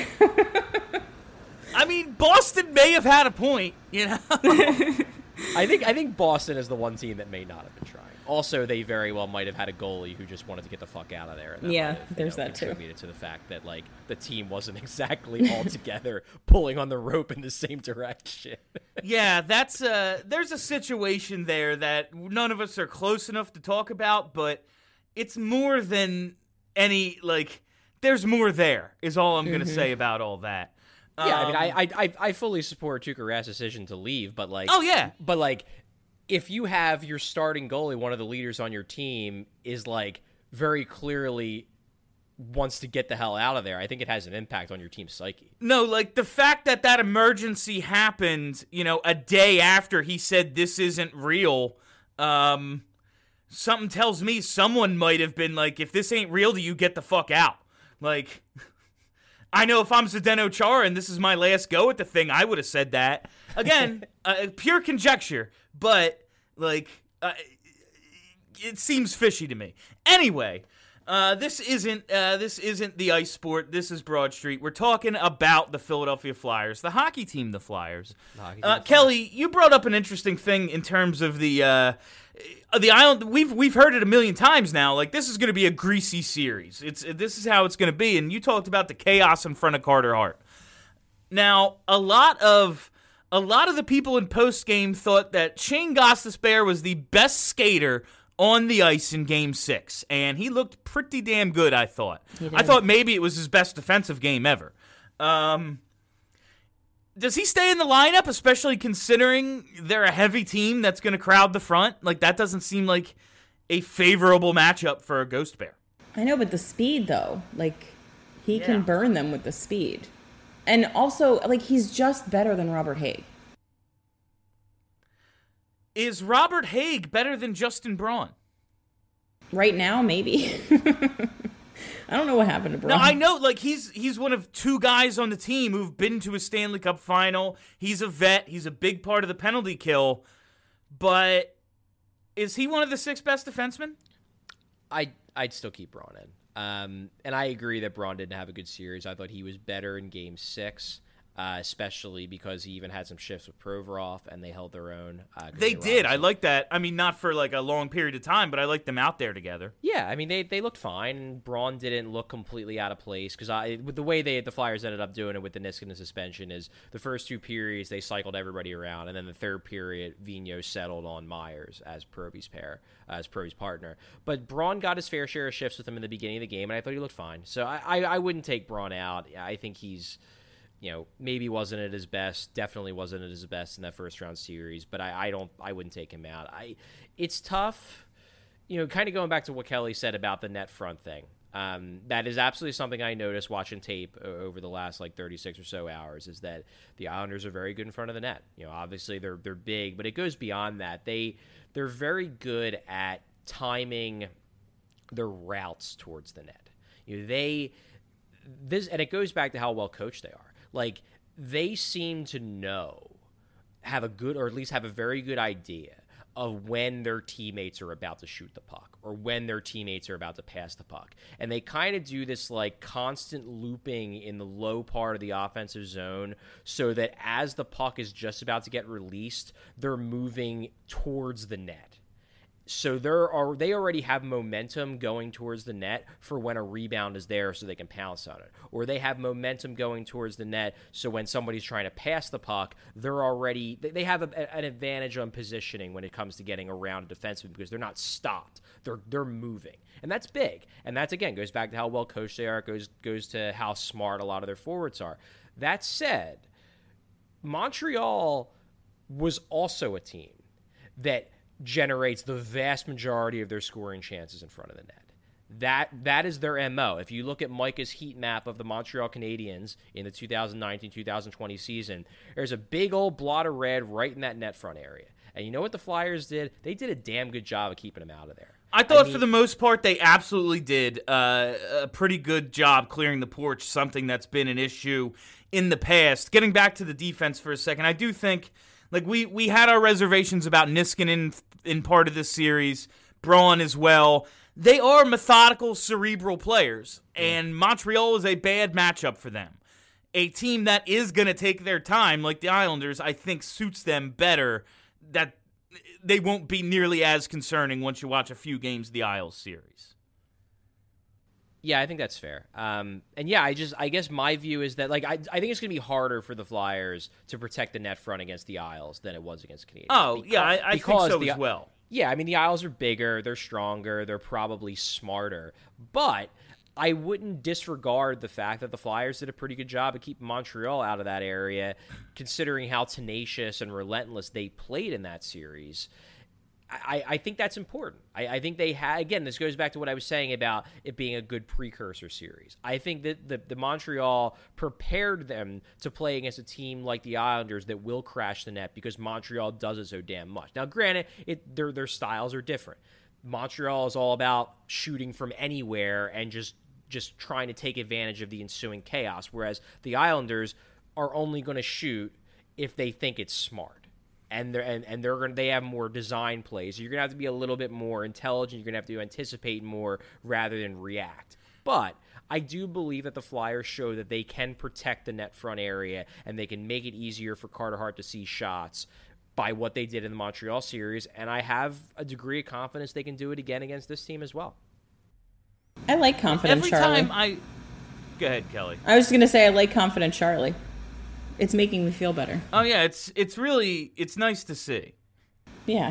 I mean, Boston may have had a point, you know? I think I think Boston is the one team that may not have been trying. Also, they very well might have had a goalie who just wanted to get the fuck out of there. And that yeah, might have, there's you know, that too. Contributed to the fact that like the team wasn't exactly all together, pulling on the rope in the same direction. Yeah, that's uh there's a situation there that none of us are close enough to talk about, but it's more than any like. There's more there. Is all I'm mm-hmm. gonna say about all that. Yeah, um, I mean, I, I I fully support Tuukka Rask's decision to leave, but like, oh yeah, but like, if you have your starting goalie, one of the leaders on your team, is like very clearly wants to get the hell out of there, I think it has an impact on your team's psyche. No, like the fact that that emergency happened, you know, a day after he said this isn't real, um, something tells me someone might have been like, if this ain't real to you, get the fuck out. Like. I know if I'm Zdeno Chara and this is my last go at the thing, I would have said that. Again, uh, pure conjecture, but, like, uh, it seems fishy to me. Anyway, uh, this isn't uh, this isn't the ice sport. This is Broad Street. We're talking about the Philadelphia Flyers, the hockey team, the Flyers. The hockey team, uh, the Flyers. Kelly, you brought up an interesting thing in terms of the uh, the island. We've we've heard it a million times now. Like, this is going to be a greasy series. It's this is how it's going to be. And you talked about the chaos in front of Carter Hart. Now, a lot of a lot of the people in post game thought that Shane Gostisbehere was the best skater on the ice in Game Six, and he looked pretty damn good. I thought. I thought maybe it was his best defensive game ever. Um, does he stay in the lineup, especially considering they're a heavy team that's going to crowd the front? Like, that doesn't seem like a favorable matchup for a Ghost Bear. I know, but the speed, though, like, he yeah. can burn them with the speed. And also, like, he's just better than Robert Hägg. Is Robert Hägg better than Justin Braun? Right now, maybe. I don't know what happened to Braun. No, I know, like, he's he's one of two guys on the team who've been to a Stanley Cup final. He's a vet. He's a big part of the penalty kill. But is he one of the six best defensemen? I, I'd still keep Braun in. Um, and I agree that Braun didn't have a good series. I thought he was better in Game six. Uh, especially because he even had some shifts with Provorov, and they held their own. Uh, they, they did. I like that. I mean, not for like a long period of time, but I like them out there together. Yeah, I mean, they they looked fine. And Braun didn't look completely out of place because I with the way they the Flyers ended up doing it with the Niskanen suspension is the first two periods they cycled everybody around, and then the third period Vigneault settled on Myers as Proby's pair, uh, as Proby's partner. But Braun got his fair share of shifts with him in the beginning of the game, and I thought he looked fine. So I I, I wouldn't take Braun out. I think he's. You know, maybe wasn't at his best. Definitely wasn't at his best in that first round series. But I, I don't. I wouldn't take him out. I. It's tough. You know, kind of going back to what Kelly said about the net front thing. Um, that is absolutely something I noticed watching tape over the last like thirty-six or so hours. Is that the Islanders are very good in front of the net. You know, obviously they're they're big, but it goes beyond that. They they're very good at timing their routes towards the net. You know, they this and it goes back to how well coached they are. Like, they seem to know, have a good, or at least have a very good idea of when their teammates are about to shoot the puck or when their teammates are about to pass the puck. And they kind of do this, like, constant looping in the low part of the offensive zone so that as the puck is just about to get released, they're moving towards the net. So there are they already have momentum going towards the net for when a rebound is there so they can pounce on it. Or they have momentum going towards the net so when somebody's trying to pass the puck, they're already they have a, an advantage on positioning when it comes to getting around a defenseman because they're not stopped. They're they're moving. And that's big. And that's, again, goes back to how well coached they are. It goes, goes to how smart a lot of their forwards are. That said, Montreal was also a team that generates the vast majority of their scoring chances in front of the net. That that is their M O. If you look at Micah's heat map of the Montreal Canadiens in the two thousand nineteen two thousand twenty season, there's a big old blot of red right in that net front area. And you know what the Flyers did? They did a damn good job of keeping them out of there. I thought I mean, for the most part they absolutely did uh, a pretty good job clearing the porch, something that's been an issue in the past. Getting back to the defense for a second, I do think like we, we had our reservations about Niskanen in part of this series. Braun as well. They are methodical, cerebral players, and Montreal is a bad matchup for them. A team that is going to take their time, like the Islanders, I think suits them better. That they won't be nearly as concerning once you watch a few games of the Isles series. Yeah, I think that's fair. Um, and yeah, I just, I guess my view is that, like, I, I think it's going to be harder for the Flyers to protect the net front against the Isles than it was against Canadians. Oh, because, yeah, I, I think so the, as well. Yeah, I mean, the Isles are bigger, they're stronger, they're probably smarter, but I wouldn't disregard the fact that the Flyers did a pretty good job of keeping Montreal out of that area, considering how tenacious and relentless they played in that series. I, I think that's important. I, I think they had, again, this goes back to what I was saying about it being a good precursor series. I think that the, the Montreal prepared them to play against a team like the Islanders that will crash the net because Montreal does it so damn much. Now, granted, it, their, their styles are different. Montreal is all about shooting from anywhere and just just trying to take advantage of the ensuing chaos, whereas the Islanders are only going to shoot if they think it's smart. And they're and, and they're gonna they have more design plays. So you're gonna have to be a little bit more intelligent. You're gonna have to anticipate more rather than react. But I do believe that the Flyers show that they can protect the net front area and they can make it easier for Carter Hart to see shots by what they did in the Montreal series. And I have a degree of confidence they can do it again against this team as well. I like confident Every Charlie. time I go ahead, Kelly. I was just gonna say I like confident Charlie. It's making me feel better. Oh yeah, it's it's really it's nice to see. Yeah.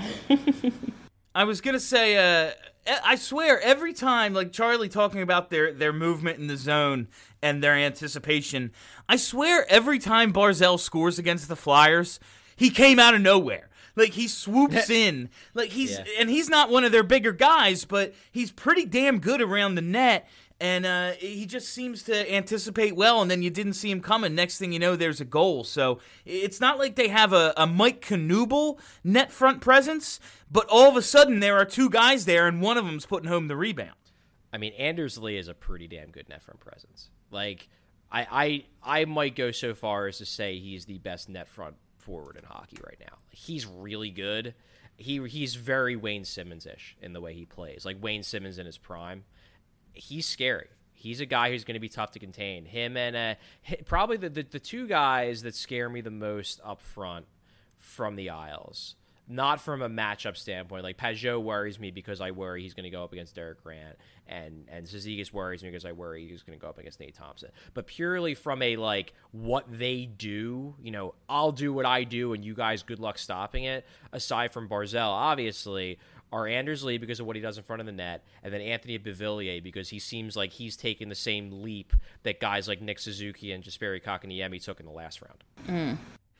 I was gonna say, uh, I swear every time, like Charlie talking about their their movement in the zone and their anticipation, I swear every time Barzal scores against the Flyers, he came out of nowhere. Like he swoops in, like he's yeah. and he's not one of their bigger guys, but he's pretty damn good around the net. And uh, he just seems to anticipate well, and then you didn't see him coming. Next thing you know, there's a goal. So it's not like they have a, a Mike Knuble net front presence, but all of a sudden there are two guys there, and one of them's putting home the rebound. I mean, Anders Lee is a pretty damn good net front presence. Like, I, I, I might go so far as to say he's the best net front forward in hockey right now. He's really good. He He's very Wayne Simmons-ish in the way he plays, like Wayne Simmons in his prime. He's scary. He's a guy who's going to be tough to contain. Him and uh, probably the, the the two guys that scare me the most up front from the Isles. Not from a matchup standpoint. Like, Pajot worries me because I worry he's going to go up against Derek Grant. And, and Cizikas worries me because I worry he's going to go up against Nate Thompson. But purely from a, like, what they do, you know, I'll do what I do and you guys good luck stopping it. Aside from Barzal, obviously, are Anders Lee because of what he does in front of the net, and then Anthony Beauvillier because he seems like he's taking the same leap that guys like Nick Suzuki and Jesperi Kotkaniemi took in the last round. Mm.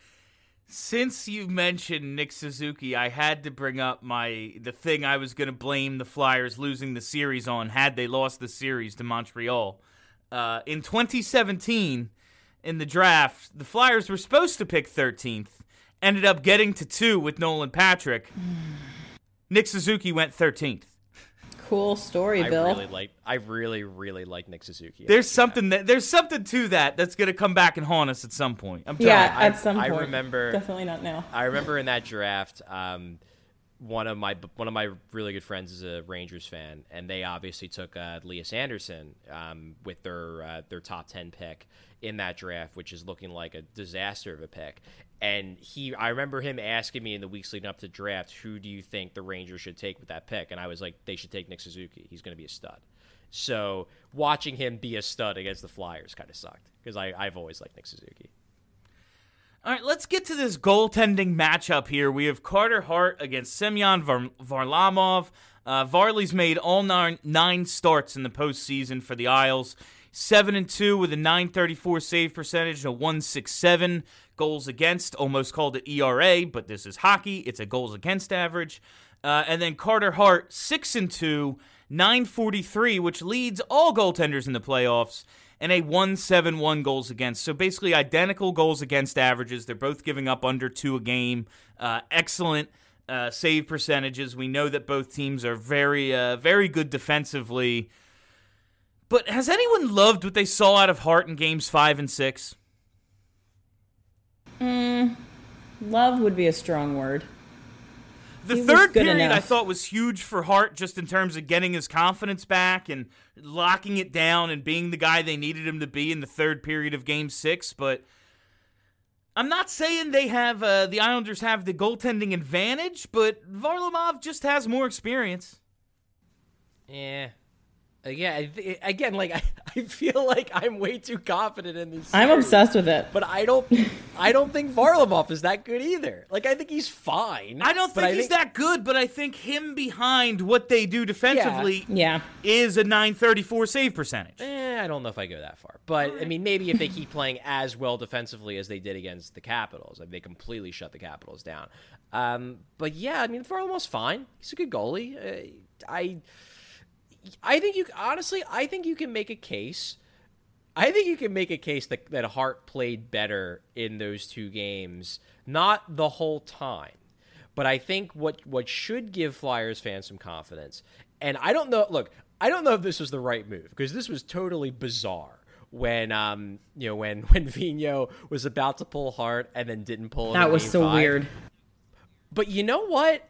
Since you mentioned Nick Suzuki, I had to bring up my the thing I was going to blame the Flyers losing the series on had they lost the series to Montreal. Uh, in twenty seventeen, in the draft, the Flyers were supposed to pick thirteenth, ended up getting to two with Nolan Patrick. Nick Suzuki went thirteenth. Cool story, I Bill. Really like, I really, really like Nick Suzuki. There's something that there's something to that that's going to come back and haunt us at some point. I'm yeah, telling you. at some I, point. I remember Definitely not now. I remember in that draft, um, one of my one of my really good friends is a Rangers fan, and they obviously took uh, Elias Anderson um, with their uh, their top ten pick in that draft, which is looking like a disaster of a pick. And he, I remember him asking me in the weeks leading up to draft, who do you think the Rangers should take with that pick? And I was like, they should take Nick Suzuki. He's going to be a stud. So watching him be a stud against the Flyers kind of sucked because I've always liked Nick Suzuki. All right, let's get to this goaltending matchup here. We have Carter Hart against Semyon Var- Varlamov. Uh, Varley's made all nine, nine starts in the postseason for the Isles. seven and two with a nine thirty-four save percentage, a one sixty-seven goals against. Almost called it E R A, but this is hockey. It's a goals against average. Uh, and then Carter Hart, six and two, nine forty-three, which leads all goaltenders in the playoffs, and a one seventy-one goals against. So basically identical goals against averages. They're both giving up under two a game. Uh, excellent uh, save percentages. We know that both teams are very, uh, very good defensively. But has anyone loved what they saw out of Hart in games five and six? Mm, love would be a strong word. The He was third good period enough. I thought was huge for Hart just in terms of getting his confidence back and locking it down and being the guy they needed him to be in the third period of Game Six. But I'm not saying they have uh, the Islanders have the goaltending advantage, but Varlamov just has more experience. Yeah. Yeah, I th- again, like I, I feel like I'm way too confident in these. I'm series, obsessed with it. but I don't, I don't think Varlamov is that good either. Like I think he's fine. I don't but think I he's think, that good, but I think him behind what they do defensively Yeah. is a nine thirty-four save percentage. Eh, I don't know if I go that far, but I mean, maybe if they keep playing as well defensively as they did against the Capitals, like they completely shut the Capitals down. Um, but yeah, I mean, Varlamov's fine. He's a good goalie. Uh, I. I think you honestly, I think you can make a case. I think you can make a case that, that Hart played better in those two games, not the whole time, but I think what what should give Flyers fans some confidence. And I don't know. Look, I don't know if this was the right move because this was totally bizarre. When um you know when when Vigneault was about to pull Hart and then didn't pull him. That in was game so five. weird. But you know what?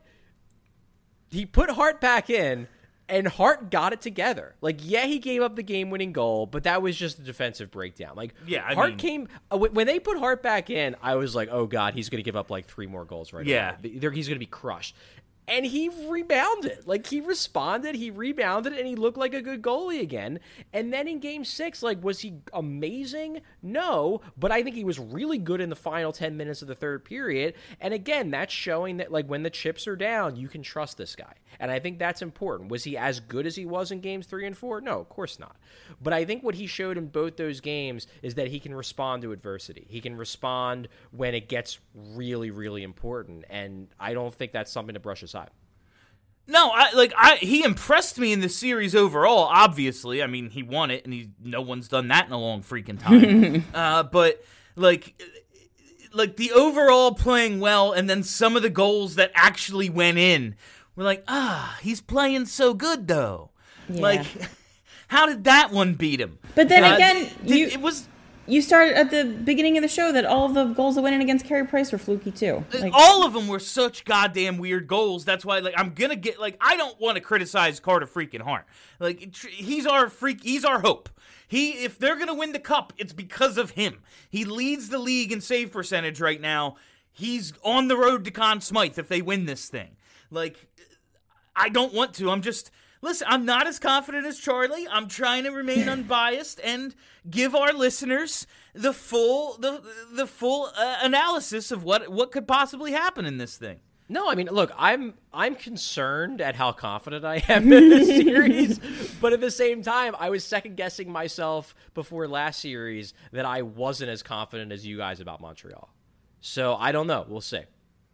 He put Hart back in. And Hart got it together. Like, yeah, he gave up the game-winning goal, but that was just a defensive breakdown. Like, Yeah, I Hart mean- came uh, when when they put Hart back in. I was like, oh god, he's going to give up like three more goals right Yeah. away. They're- He's going to be crushed. And he rebounded. Like, he responded, he rebounded, and he looked like a good goalie again. And then in game six, like, was he amazing? No, but I think he was really good in the final ten minutes of the third period. And again, that's showing that, like, when the chips are down, you can trust this guy. And I think that's important. Was he as good as he was in games three and four? No, of course not. But I think what he showed in both those games is that he can respond to adversity. He can respond when it gets really, really important. And I don't think that's something to brush aside. No, I like I he impressed me in the series overall, obviously. I mean, he won it and he no one's done that in a long freaking time. uh, but like like the overall playing well and then some of the goals that actually went in. We're like, "Ah, he's playing so good though." Yeah. Like how did that one beat him? But then Uh, again, th- you it was you started at the beginning of the show that all of the goals that went in against Carey Price were fluky too. Like, all of them were such goddamn weird goals. That's why, like, I'm gonna get like I don't want to criticize Carter freaking Hart. Like, tr- he's our freak. He's our hope. He, if they're gonna win the cup, it's because of him. He leads the league in save percentage right now. He's on the road to Conn Smythe if they win this thing. Like, I don't want to. I'm just. Listen, I'm not as confident as Charlie. I'm trying to remain unbiased and give our listeners the full the the full uh, analysis of what what could possibly happen in this thing. No, I mean, look, I'm I'm concerned at how confident I am in this series, but at the same time, I was second guessing myself before last series that I wasn't as confident as you guys about Montreal. So I don't know. We'll see.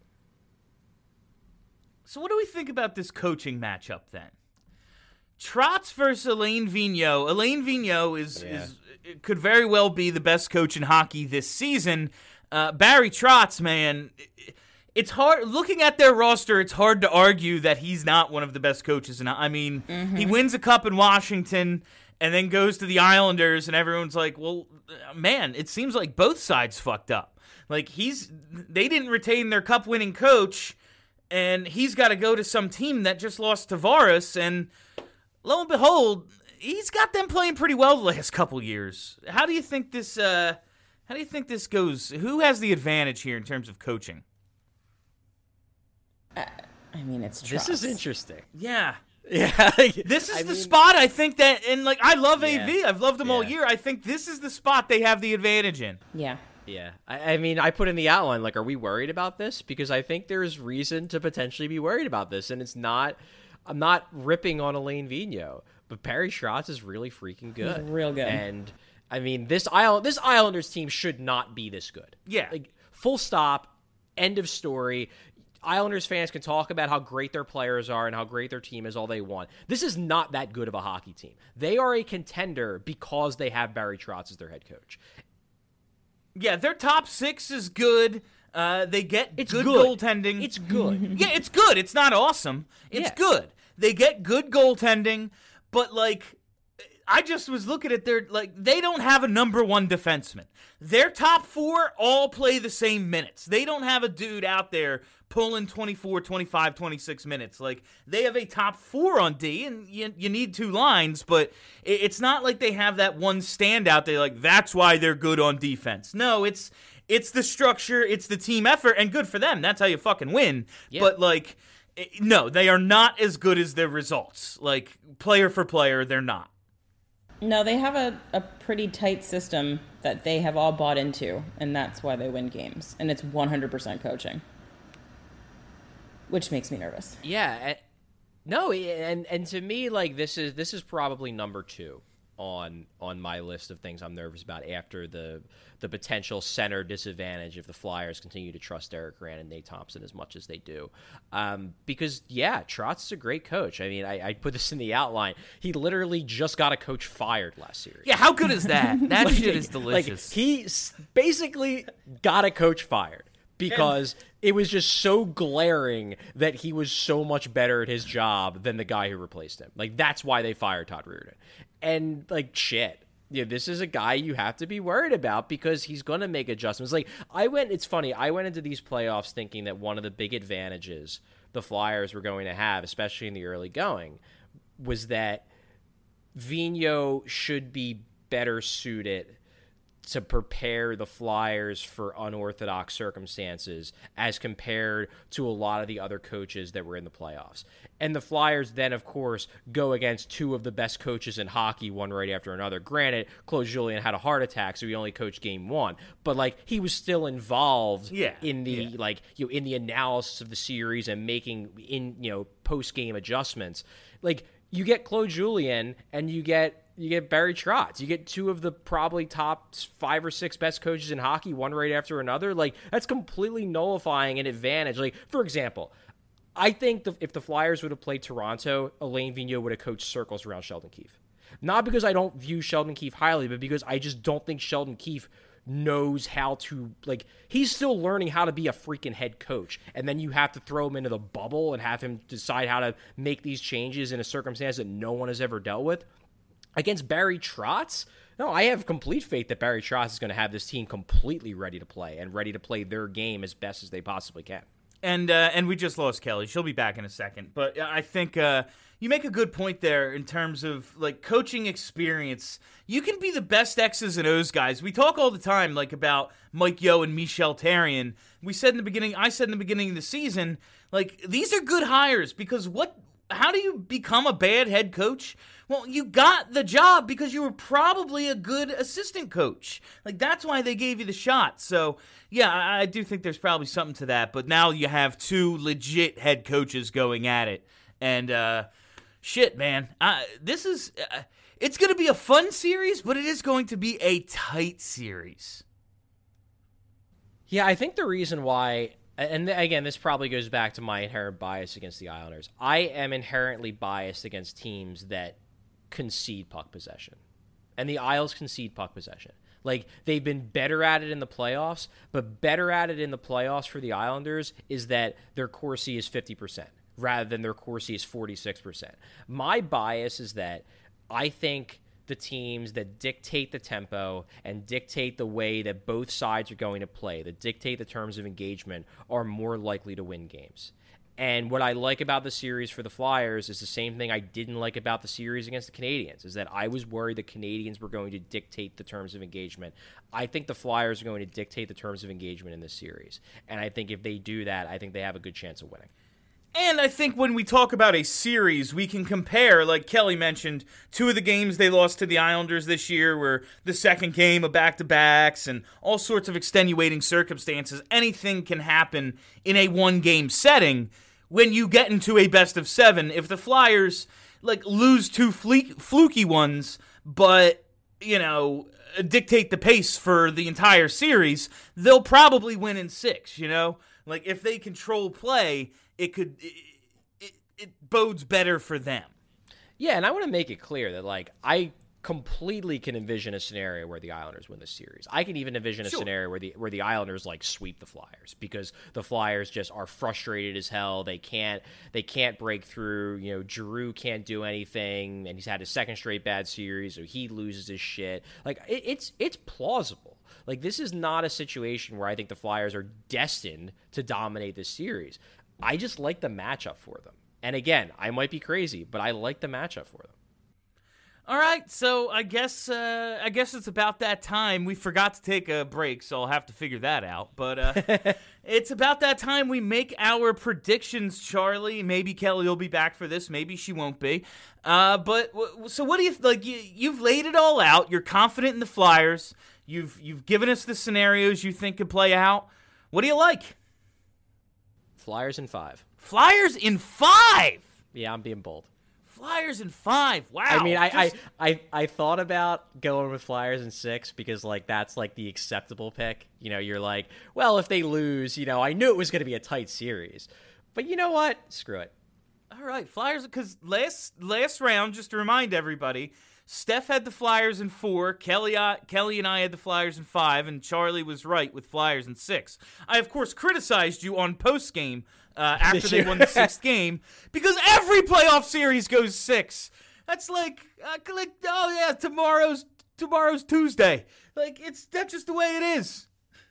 So what do we think about this coaching matchup then? Trotz versus Alain Vigneault. Alain Vigneault is, Yeah. is could very well be the best coach in hockey this season. Uh, Barry Trotz, man, it's hard looking at their roster. It's hard to argue that he's not one of the best coaches. And I mean, Mm-hmm. he wins a cup in Washington and then goes to the Islanders, and everyone's like, "Well, man, it seems like both sides fucked up. Like he's they didn't retain their cup-winning coach, and he's got to go to some team that just lost Tavares and." Lo and behold, he's got them playing pretty well the last couple years. How do you think this? Uh, how do you think this goes? Who has the advantage here in terms of coaching? I mean, it's This trust. is interesting. Yeah, Yeah. like, this is I the mean, spot I think that, and like I love Yeah. A V. I've loved them all Yeah. year. I think this is the spot they have the advantage in. Yeah. Yeah. I, I mean, I put in the outline, like, are we worried about this? Because I think there's reason to potentially be worried about this, and it's not. I'm not ripping on Alain Vigneault, but Barry Trotz is really freaking good. He's real good. And I mean, this Isle this Islanders team should not be this good. Yeah. Like, full stop, end of story. Islanders fans can talk about how great their players are and how great their team is all they want. This is not that good of a hockey team. They are a contender because they have Barry Trotz as their head coach. Yeah, their top six is good. Uh, they get It's good, good. goaltending. It's good. Yeah, it's good. It's not awesome. It's Yeah. good. They get good goaltending, but like, I just was looking at their, like, they don't have a number one defenseman. Their top four all play the same minutes. They don't have a dude out there pulling twenty-four, twenty-five, twenty-six minutes. Like, they have a top four on D, and you, you need two lines, but it's not like they have that one standout there, like, that's why they're good on defense. No, it's it's the structure, it's the team effort, and good for them. That's how you fucking win. Yeah. But, like, no, they are not as good as their results. Like, player for player, they're not. No, they have a, a pretty tight system that they have all bought into, and that's why they win games. And it's one hundred percent coaching, which makes me nervous. Yeah, no, and and to me, like, this is this is probably number two on on my list of things I'm nervous about after the the potential center disadvantage if the Flyers continue to trust Derek Grant and Nate Thompson as much as they do. Um, because, yeah, Trotz is a great coach. I mean, I, I put this in the outline. He literally just got a coach fired last series. Yeah, how good is that? That like, shit is delicious. Like, he basically got a coach fired because it was just so glaring that he was so much better at his job than the guy who replaced him. Like, that's why they fired Todd Reirden. And, like, shit. Yeah, this is a guy you have to be worried about because he's going to make adjustments. Like, I went, it's funny, I went into these playoffs thinking that one of the big advantages the Flyers were going to have, especially in the early going, was that Vigneault should be better suited to prepare the Flyers for unorthodox circumstances as compared to a lot of the other coaches that were in the playoffs. And the Flyers then, of course, go against two of the best coaches in hockey, one right after another. Granted, Claude Julien had a heart attack, so he only coached game one. But, like, he was still involved yeah, in the yeah. like you know, in the analysis of the series and making in you know post-game adjustments. Like, you get Claude Julien and you get You get Barry Trotz. You get two of the probably top five or six best coaches in hockey, one right after another. Like, that's completely nullifying an advantage. Like, for example, I think the, if the Flyers would have played Toronto, Alain Vigneault would have coached circles around Sheldon Keefe. Not because I don't view Sheldon Keefe highly, but because I just don't think Sheldon Keefe knows how to, like, he's still learning how to be a freaking head coach. And then you have to throw him into the bubble and have him decide how to make these changes in a circumstance that no one has ever dealt with. Against Barry Trotz, no, I have complete faith that Barry Trotz is going to have this team completely ready to play and ready to play their game as best as they possibly can. And uh, and we just lost Kelly. She'll be back in a second. But I think uh, you make a good point there in terms of, like, coaching experience. You can be the best X's and O's guys. We talk all the time, like, about Mike Yeo and Michel Therrien. We said in the beginning, I said in the beginning of the season, like, these are good hires because what? How do you become a bad head coach? Well, you got the job because you were probably a good assistant coach. Like, that's why they gave you the shot. So, yeah, I, I do think there's probably something to that. But now you have two legit head coaches going at it. And, uh, shit, man. I, this is, uh, it's going to be a fun series, but it is going to be a tight series. Yeah, I think the reason why... And again, this probably goes back to my inherent bias against the Islanders. I am inherently biased against teams that concede puck possession. And the Isles concede puck possession. Like, they've been better at it in the playoffs, but better at it in the playoffs for the Islanders is that their Corsi is fifty percent rather than their Corsi is forty-six percent. My bias is that I think the teams that dictate the tempo and dictate the way that both sides are going to play, that dictate the terms of engagement, are more likely to win games. And what I like about the series for the Flyers is the same thing I didn't like about the series against the Canadiens, is that I was worried the Canadiens were going to dictate the terms of engagement. I think the Flyers are going to dictate the terms of engagement in this series. And I think if they do that, I think they have a good chance of winning. And I think when we talk about a series, we can compare, like Kelly mentioned, two of the games they lost to the Islanders this year were the second game of back-to-backs and all sorts of extenuating circumstances. Anything can happen in a one-game setting when you get into a best of seven. If the Flyers, like, lose two fle- fluky ones, but, you know, dictate the pace for the entire series, they'll probably win in six, you know? Like, if they control play, it could it, it, it bodes better for them. Yeah, and I want to make it clear that, like, I completely can envision a scenario where the Islanders win the series. I can even envision a Sure. scenario where the where the Islanders like sweep the Flyers because the Flyers just are frustrated as hell. They can't they can't break through. You know, Giroux can't do anything, and he's had his second straight bad series, so he loses his shit. Like it, it's it's plausible. Like this is not a situation where I think the Flyers are destined to dominate this series. I just like the matchup for them. And again, I might be crazy, but I like the matchup for them. All right, so I guess uh, I guess it's about that time. We forgot to take a break, so I'll have to figure that out. But uh, it's about that time we make our predictions, Charlie. Maybe Kelly will be back for this. Maybe she won't be. Uh, but w- so what do you like? You, you've laid it all out. You're confident in the Flyers. You've you've given us the scenarios you think could play out. What do you like? Flyers in five. Flyers in five. Yeah, I'm being bold. Flyers in five. Wow. I mean, I, Just- I, I, I thought about going with Flyers in six because, like, that's, like, the acceptable pick. You know, you're like, well, if they lose, you know, I knew it was going to be a tight series. But you know what? Screw it. All right, Flyers, because last last round, just to remind everybody, Steph had the Flyers in four, Kelly, uh, Kelly and I had the Flyers in five, and Charlie was right with Flyers in six. I, of course, criticized you on post-game uh, after they won the sixth game, because every playoff series goes six. That's like, uh, like, oh yeah, tomorrow's tomorrow's Tuesday. Like, it's that's just the way it is.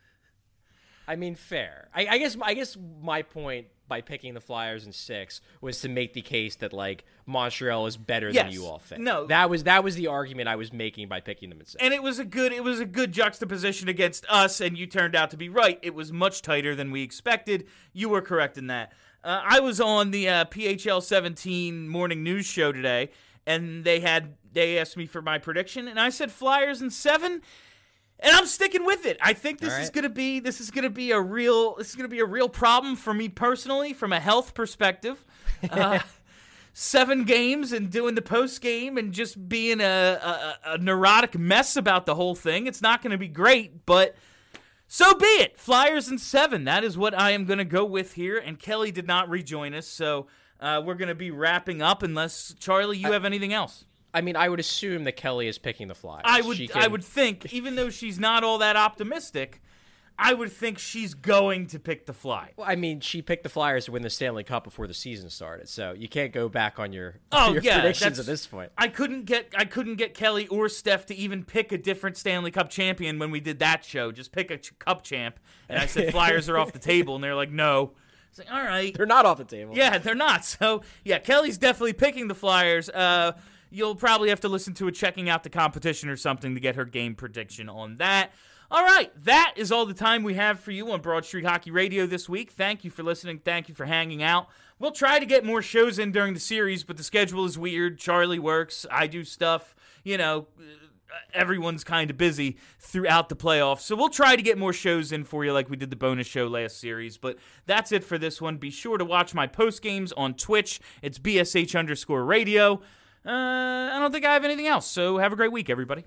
I mean, fair. I, I guess I guess my point by picking the Flyers in six was to make the case that, like, Montreal is better Yes. than you all think. No. That was that was the argument I was making by picking them in six. And it was a good it was a good juxtaposition against us, and you turned out to be right. It was much tighter than we expected. You were correct in that. Uh, I was on the uh, P H L seventeen morning news show today, and they had they asked me for my prediction, and I said Flyers in seven. And I'm sticking with it. I think this All right. is gonna be this is gonna be a real this is gonna be a real problem for me personally from a health perspective. Uh, seven games and doing the post game and just being a, a, a neurotic mess about the whole thing. It's not gonna be great, but so be it. Flyers in seven. That is what I am gonna go with here. And Kelly did not rejoin us, so uh, we're gonna be wrapping up unless Charlie, you have anything else. I mean, I would assume that Kelly is picking the Flyers. I would She I can- would think, even though she's not all that optimistic, I would think she's going to pick the Fly. Well, I mean, she picked the Flyers to win the Stanley Cup before the season started, so you can't go back on your, Oh your yeah, predictions that's- at this point. I couldn't get I couldn't get Kelly or Steph to even pick a different Stanley Cup champion when we did that show. Just pick a ch- cup champ, and I said Flyers are off the table, and they're like, no. It's like, all right, They're not off the table. yeah, they're not. So yeah, Kelly's definitely picking the Flyers. Uh, you'll probably have to listen to a checking out the competition or something to get her game prediction on that. All right, that is all the time we have for you on Broad Street Hockey Radio this week. Thank you for listening. Thank you for hanging out. We'll try to get more shows in during the series, but the schedule is weird. Charlie works. I do stuff. You know, everyone's kind of busy throughout the playoffs. So we'll try to get more shows in for you like we did the bonus show last series. But that's it for this one. Be sure to watch my post games on Twitch. It's B S H underscore radio. Uh, I don't think I have anything else. So have a great week, everybody.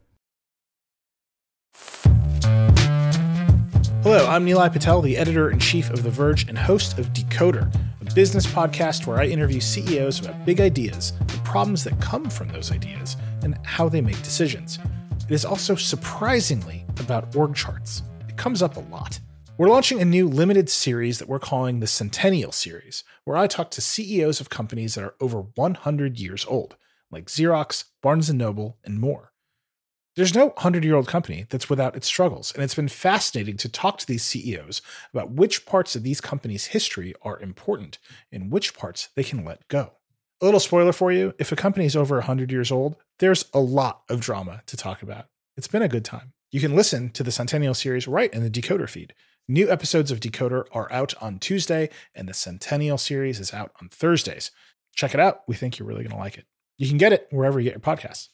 Hello, I'm Nilay Patel, the editor-in-chief of The Verge and host of Decoder, a business podcast where I interview C E Os about big ideas, the problems that come from those ideas, and how they make decisions. It is also surprisingly about org charts. It comes up a lot. We're launching a new limited series that we're calling the Centennial Series, where I talk to C E Os of companies that are over one hundred years old, like Xerox, Barnes and Noble, and more. There's no hundred-year-old company that's without its struggles, and it's been fascinating to talk to these C E Os about which parts of these companies' history are important and which parts they can let go. A little spoiler for you, if a company is over one hundred years old, there's a lot of drama to talk about. It's been a good time. You can listen to the Centennial Series right in the Decoder feed. New episodes of Decoder are out on Tuesday, and the Centennial Series is out on Thursdays. Check it out. We think you're really going to like it. You can get it wherever you get your podcasts.